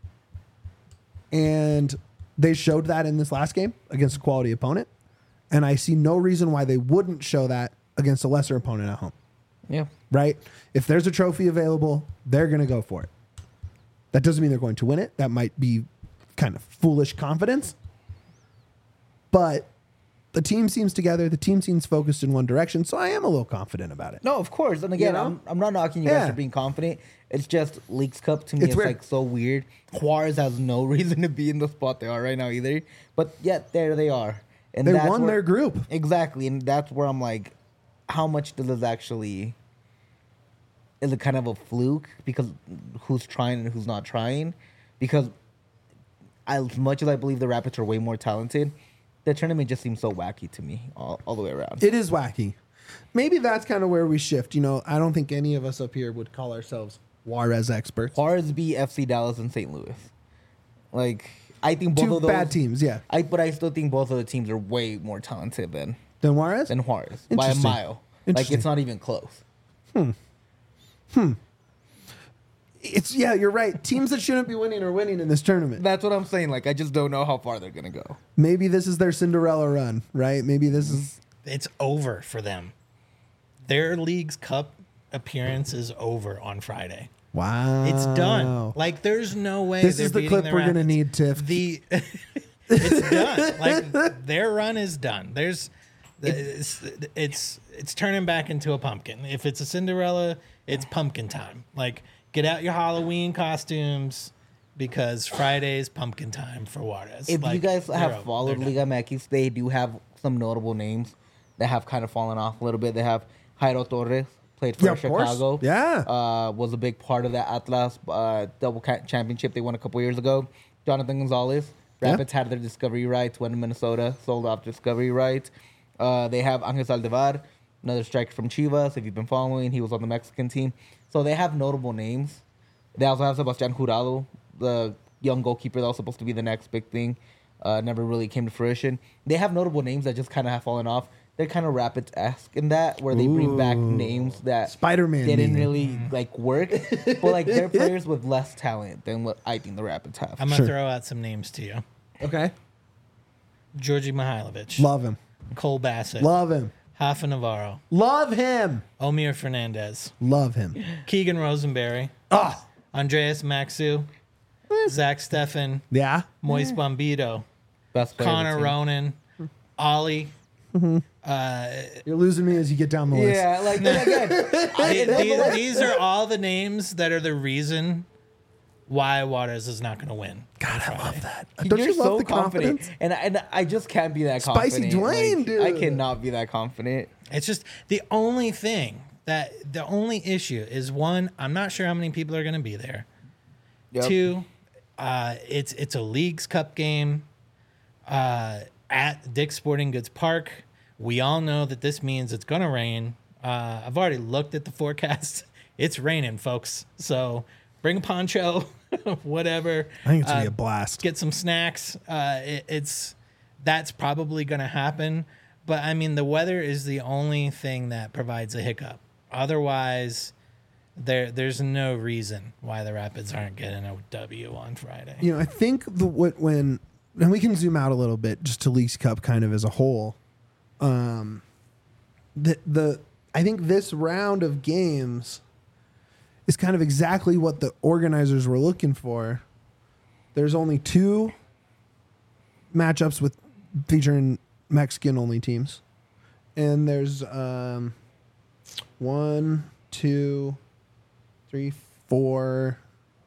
Speaker 1: And they showed that in this last game against a quality opponent. And I see no reason why they wouldn't show that against a lesser opponent at home,
Speaker 2: Yeah.
Speaker 1: right? If there's a trophy available, they're going to go for it. That doesn't mean they're going to win it. That might be kind of foolish confidence. But the team seems together. The team seems focused in one direction. So I am a little confident about it.
Speaker 2: No, of course. And again,
Speaker 1: You know?
Speaker 2: I'm, I'm not knocking you
Speaker 1: Yeah.
Speaker 2: guys for being confident. It's just Leagues Cup to me
Speaker 1: It's
Speaker 2: is
Speaker 1: weird.
Speaker 2: like so weird. Juarez has no reason to be in the spot they are right now either. But yet there they are. And
Speaker 1: They
Speaker 2: that's
Speaker 1: won
Speaker 2: where-
Speaker 1: their group.
Speaker 2: Exactly. And that's where I'm like, how much does this actually is it kind of a fluke because who's trying and who's not trying? Because as much as I believe the Rapids are way more talented, the tournament just seems so wacky to me all, all the way around.
Speaker 1: It is wacky. Maybe that's kind of where we shift. You know, I don't think any of us up here would call ourselves Juarez experts.
Speaker 2: Juarez beat F C Dallas and Saint Louis. Like I think both
Speaker 1: Two
Speaker 2: of those
Speaker 1: bad teams, yeah.
Speaker 2: I but I still think both of the teams are way more talented than
Speaker 1: Then Juarez?
Speaker 2: than Juarez by a
Speaker 1: Interesting.
Speaker 2: mile. Like
Speaker 1: Interesting.
Speaker 2: it's not even close.
Speaker 1: It's yeah, you're right. Teams that shouldn't be winning are winning in this tournament.
Speaker 2: That's what I'm saying. Like I just don't know how far they're gonna go.
Speaker 1: Maybe this is their Cinderella run, right? Maybe this is
Speaker 3: It's over for them. Their League's Cup appearance is over on Friday.
Speaker 1: wow.
Speaker 3: It's done. Like there's no way.
Speaker 1: This
Speaker 3: they're
Speaker 1: is the
Speaker 3: beating
Speaker 1: clip
Speaker 3: the
Speaker 1: we're gonna
Speaker 3: Rapids.
Speaker 1: need, Tiff.
Speaker 3: The It's done. Like their run is done. There's, it's, it's it's turning back into a pumpkin. If it's a Cinderella, it's pumpkin time. Like get out your Halloween costumes because Friday's pumpkin time for Juarez.
Speaker 2: If
Speaker 3: Like,
Speaker 2: you guys
Speaker 3: they're
Speaker 2: have
Speaker 3: over.
Speaker 2: followed
Speaker 3: They're done.
Speaker 2: Liga M X, they do have some notable names that have kind of fallen off a little bit. They have Jairo Torres, played for
Speaker 1: Yeah, of course.
Speaker 2: Chicago.
Speaker 1: Yeah.
Speaker 2: Uh, was a big part of that Atlas uh, double ca- championship they won a couple years ago. Jonathan Gonzalez.
Speaker 1: Yeah.
Speaker 2: Rapids had their discovery rights, went to Minnesota, sold off discovery rights. Uh, they have Angel Saldivar, another striker from Chivas. If you've been following, he was on the Mexican team. So they have notable names. They also have Sebastián Jurado, the young goalkeeper that was supposed to be the next big thing. Uh, never really came to fruition. They have notable names that just kind of have fallen off. They're kind of Rapids-esque in that, where they bring back
Speaker 1: Ooh.
Speaker 2: names that
Speaker 1: Spider-Man
Speaker 2: didn't
Speaker 1: name.
Speaker 2: really like work, but like they're players with less talent than what I think the Rapids have.
Speaker 3: I'm gonna
Speaker 1: Sure.
Speaker 3: throw out some names to you:
Speaker 1: Okay.
Speaker 3: Georgi Mihailovic,
Speaker 1: Love him.
Speaker 3: Cole Bassett,
Speaker 1: Love him.
Speaker 3: Rafa Navarro,
Speaker 1: Love him.
Speaker 3: Omir Fernandez,
Speaker 1: Love him.
Speaker 3: Keegan Rosenberry,
Speaker 1: Ah.
Speaker 3: Andreas Maxu, Zach Steffen,
Speaker 1: Yeah.
Speaker 3: Moise Bombito,
Speaker 2: Best player of the
Speaker 3: Connor
Speaker 2: team.
Speaker 3: Ronan, Ollie. Uh,
Speaker 1: You're losing me as you get down the list.
Speaker 2: Yeah, like again,
Speaker 3: the- these, these are all the names that are the reason why Juarez is not going to win.
Speaker 1: God, I love that. Don't
Speaker 2: you're
Speaker 1: you love
Speaker 2: so
Speaker 1: the
Speaker 2: confident,
Speaker 1: confidence?
Speaker 2: and I- and I just can't be that
Speaker 1: Spicy
Speaker 2: confident.
Speaker 1: Dwayne,
Speaker 2: Like,
Speaker 1: dude.
Speaker 2: I cannot be that confident.
Speaker 3: It's just the only thing that the only issue is one, I'm not sure how many people are going to be there.
Speaker 2: Yep.
Speaker 3: Two, uh, it's it's a Leagues Cup game uh, at Dick's Sporting Goods Park. We all know that this means it's going to rain. Uh, I've already looked at the forecast. It's raining, folks. So bring a poncho, whatever.
Speaker 1: I think it's gonna
Speaker 3: Uh,
Speaker 1: be a blast.
Speaker 3: Get some snacks. Uh, it, it's that's probably going to happen. But I mean, the weather is the only thing that provides a hiccup. Otherwise, there there's no reason why the Rapids aren't getting a W on Friday.
Speaker 1: You know, I think the what when and we can zoom out a little bit just to Leagues Cup kind of as a whole. Um, the the I think this round of games is kind of exactly what the organizers were looking for. There's only two matchups with featuring Mexican only teams, and there's um, one, two, three, four,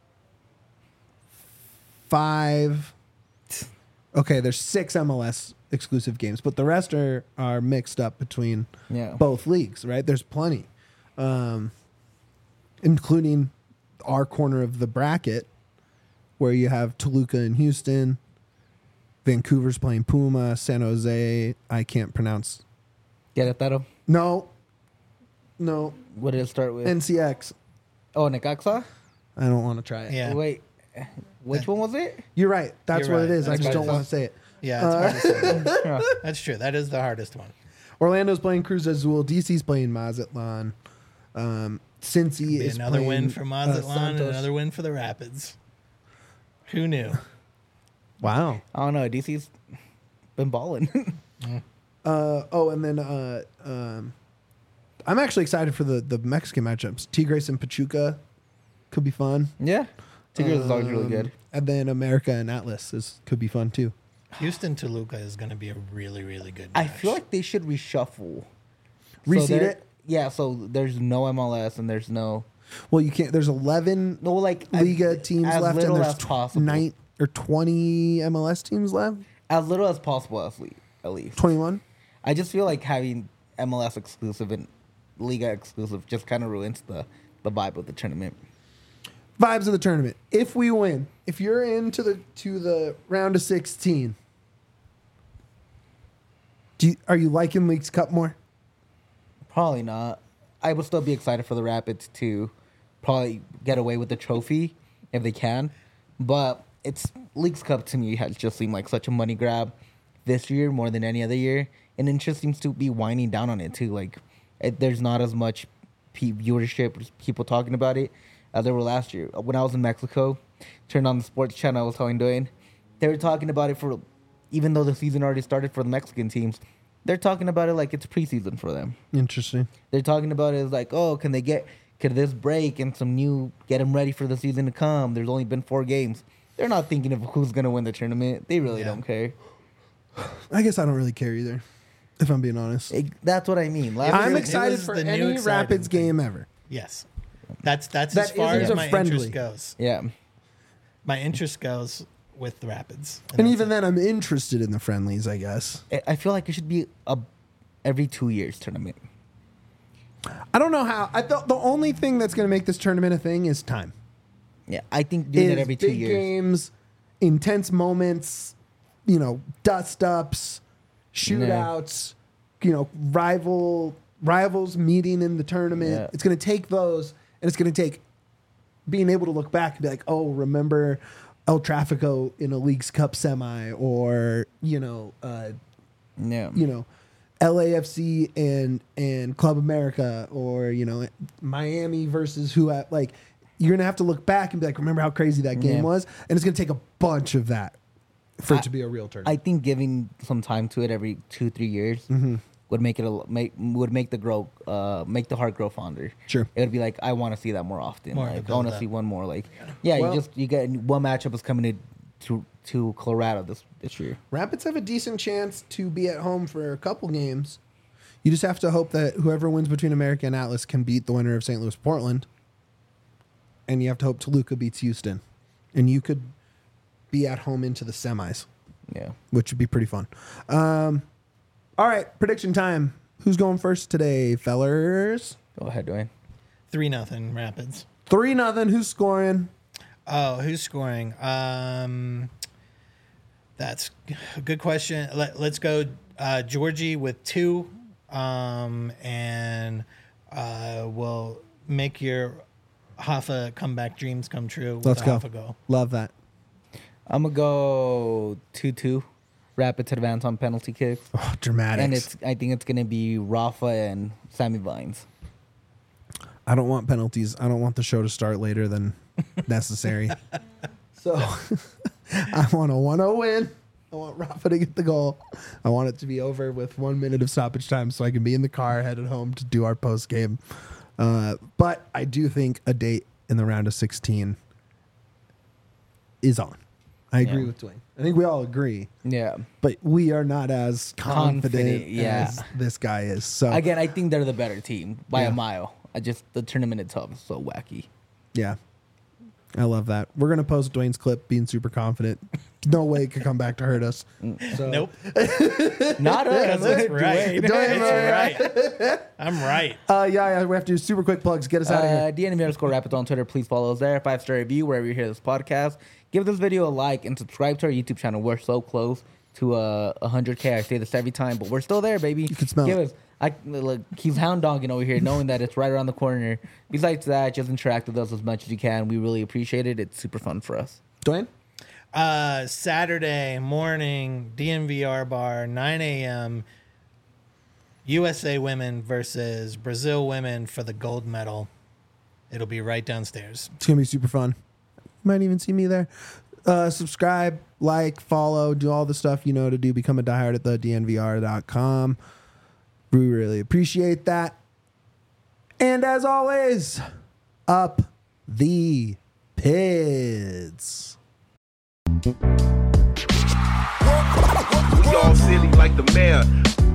Speaker 1: five. Okay, there's six M L S exclusive games, but the rest are are mixed up between
Speaker 2: Yeah.
Speaker 1: both leagues, right? There's plenty, um, including our corner of the bracket, where you have Toluca and Houston, Vancouver's playing Puma, San Jose. I can't pronounce.
Speaker 2: Querétaro.
Speaker 1: No, no,
Speaker 2: What did it start with?
Speaker 1: N C X.
Speaker 2: oh, Necaxa.
Speaker 1: I don't want to try it.
Speaker 3: Yeah,
Speaker 2: Wait, which one was it?
Speaker 1: You're right. That's
Speaker 3: You're
Speaker 1: what
Speaker 3: right.
Speaker 1: it is. I
Speaker 3: That's
Speaker 1: just
Speaker 3: what
Speaker 1: don't
Speaker 3: it
Speaker 1: want
Speaker 3: is.
Speaker 1: to say it.
Speaker 3: yeah, it's hard to say.
Speaker 2: Yeah.
Speaker 3: That's true. That is the hardest one.
Speaker 1: Orlando's playing Cruz Azul. D C's playing Mazatlan. Um, Cincy
Speaker 3: Be
Speaker 1: is
Speaker 3: another
Speaker 1: playing,
Speaker 3: win for
Speaker 1: uh,
Speaker 3: Mazatlan and
Speaker 1: Santos.
Speaker 3: another win for the Rapids. Who knew?
Speaker 1: Wow.
Speaker 2: I don't know. D C's been balling.
Speaker 1: Uh, oh, and then uh, um, I'm actually excited for the, the Mexican matchups. Tigres and Pachuca could be fun.
Speaker 2: yeah, Tigres is always really
Speaker 1: Um,
Speaker 2: good.
Speaker 1: And then America and Atlas is could be fun too.
Speaker 3: Houston Toluca is going to be a really, really good
Speaker 2: I
Speaker 3: match.
Speaker 2: feel like they should reshuffle.
Speaker 1: Reseed
Speaker 2: there-
Speaker 1: it?
Speaker 2: Yeah, so there's no M L S and there's no
Speaker 1: Well, you can't. There's eleven
Speaker 2: no like as-
Speaker 1: Liga teams
Speaker 2: as
Speaker 1: left, and
Speaker 2: little
Speaker 1: there's
Speaker 2: as
Speaker 1: tw-
Speaker 2: possible.
Speaker 1: nine or twenty M L S teams left.
Speaker 2: as little as possible at least. At least.
Speaker 1: Twenty-one.
Speaker 2: I just feel like having M L S exclusive and Liga exclusive just kind of ruins the the vibe of the tournament.
Speaker 1: Vibes of the tournament. If we win, if you're into the to the round of sixteen, do you, are you liking Leagues Cup more?
Speaker 2: Probably not. I would still be excited for the Rapids to probably get away with the trophy if they can, but it's Leagues Cup to me has just seemed like such a money grab this year more than any other year, and it just seems to be winding down on it too. Like it, there's not as much pe- viewership, people talking about it as there were last year. When I was in Mexico, turned on the sports channel, I was telling Dwayne, they were talking about it for, even though the season already started for the Mexican teams, they're talking about it like it's preseason for them.
Speaker 1: Interesting.
Speaker 2: They're talking about it as like, oh, can they get, could this break and some new, get them ready for the season to come? There's only been four games. they're not thinking of who's gonna win the tournament. They really
Speaker 3: Yeah.
Speaker 2: don't care.
Speaker 1: I guess I don't really care either, if I'm being honest.
Speaker 2: It, that's what I mean. Last
Speaker 1: I'm
Speaker 2: year-
Speaker 3: it
Speaker 1: excited
Speaker 3: was
Speaker 1: for
Speaker 3: the new
Speaker 1: any
Speaker 3: exciting
Speaker 1: Rapids
Speaker 3: thing.
Speaker 1: game ever.
Speaker 3: Yes. That's that's
Speaker 1: That
Speaker 3: as far
Speaker 1: isn't
Speaker 3: as
Speaker 1: a
Speaker 3: my
Speaker 1: friendly.
Speaker 3: interest goes.
Speaker 2: Yeah.
Speaker 3: My interest goes with the Rapids.
Speaker 1: And
Speaker 3: that's
Speaker 1: even
Speaker 3: it.
Speaker 1: then, I'm interested in the friendlies, I guess.
Speaker 2: I- I feel like it should be a every two years tournament.
Speaker 1: I don't know how. I thought the only thing that's going to make this tournament a thing is time.
Speaker 2: Yeah, I think doing it
Speaker 1: Is
Speaker 2: every two
Speaker 1: big
Speaker 2: years.
Speaker 1: games, intense moments, you know, dust ups, shootouts, you know, rival rivals meeting in the tournament.
Speaker 2: Yeah.
Speaker 1: It's going to take those, and it's going to take being able to look back and be like, oh, remember El Tráfico in a Leagues Cup semi, or you know, uh,
Speaker 2: Yeah.
Speaker 1: you know, L A F C and and Club America, or you know, Miami versus who. At, like, you're gonna have to look back and be like, remember how crazy that game
Speaker 2: Yeah.
Speaker 1: was, and it's gonna take a bunch of that for it
Speaker 2: I-
Speaker 1: to be a real
Speaker 2: I
Speaker 1: tournament.
Speaker 2: think giving some time to it every two, three years
Speaker 1: Mm-hmm.
Speaker 2: would make it a, make would make the grow uh make the heart grow fonder.
Speaker 1: Sure.
Speaker 2: It would be like I want to see that more often.
Speaker 3: More of a
Speaker 2: like I want to
Speaker 3: build-up.
Speaker 2: see one more. Like yeah,
Speaker 1: Well-
Speaker 2: you just you get one matchup is coming to to, to Colorado this this year.
Speaker 1: Rapids have a decent chance to be at home for a couple games. You just have to hope that whoever wins between America and Atlas can beat the winner of Saint Louis Portland, and you have to hope Toluca beats Houston, and you could be at home into the semis,
Speaker 2: Yeah.
Speaker 1: which would be pretty fun. Um, all right, prediction time. Who's going first today, fellers?
Speaker 2: Go ahead, Dwayne.
Speaker 3: three nothing Rapids.
Speaker 1: Three nothing. Who's scoring?
Speaker 3: Oh, who's scoring? Um, that's a good question. Let, let's go uh, Georgie with two, um, and uh, we'll make your Hoffa comeback dreams come true with
Speaker 1: Let's
Speaker 3: a
Speaker 1: go.
Speaker 3: Hoffa goal.
Speaker 1: Love that.
Speaker 2: I'm gonna go two two. Rapids advance on penalty kick,
Speaker 1: Oh, dramatics.
Speaker 2: and it's I think it's gonna be Rafa and Sammy Vines.
Speaker 1: I don't want penalties. I don't want the show to start later than necessary. So I want a one oh win. I want Rafa to get the goal. I want it to be over with one minute of stoppage time so I can be in the car headed home to do our post game. Uh, but I do think a date in the round of sixteen is on. I agree
Speaker 2: Yeah.
Speaker 1: with Dwayne. I think we all agree,
Speaker 2: Yeah.
Speaker 1: but we are not as confident,
Speaker 2: Confident, yeah.
Speaker 1: as this guy is. So
Speaker 2: Again, I think they're the better team by
Speaker 1: Yeah.
Speaker 2: a mile. I just the tournament itself is so wacky.
Speaker 1: yeah, I love that. We're gonna post Dwayne's clip being super confident. No way it could come back to hurt us. So,
Speaker 3: Nope.
Speaker 2: Not us.
Speaker 3: Because it's right.
Speaker 1: Dwayne,
Speaker 3: It's right. I'm right.
Speaker 1: Uh, yeah, yeah, we have to do super quick plugs. Get us out of
Speaker 2: Uh,
Speaker 1: here.
Speaker 2: D N M underscore Rapids on Twitter. Please follow us there. Five star review wherever you hear this podcast. Give this video a like and subscribe to our YouTube channel. We're so close to uh, one hundred K. I say this every time, but we're still there, baby. You
Speaker 1: can smell
Speaker 2: Give
Speaker 1: it.
Speaker 2: us. I look. He's hound dogging over here, knowing that it's right around the corner. Besides that, just interact with us as much as you can. We really appreciate it. It's super fun for us.
Speaker 1: Dwayne?
Speaker 3: Uh, Saturday morning, D N V R bar, nine a.m. U S A women versus Brazil women for the gold medal. It'll be right downstairs.
Speaker 1: It's going to be super fun. You might even see me there. Uh, subscribe, like, follow, do all the stuff you know to do. Become a diehard at the D N V R dot com. We really appreciate that. And as always, up the Pids.
Speaker 5: We all silly like the mayor.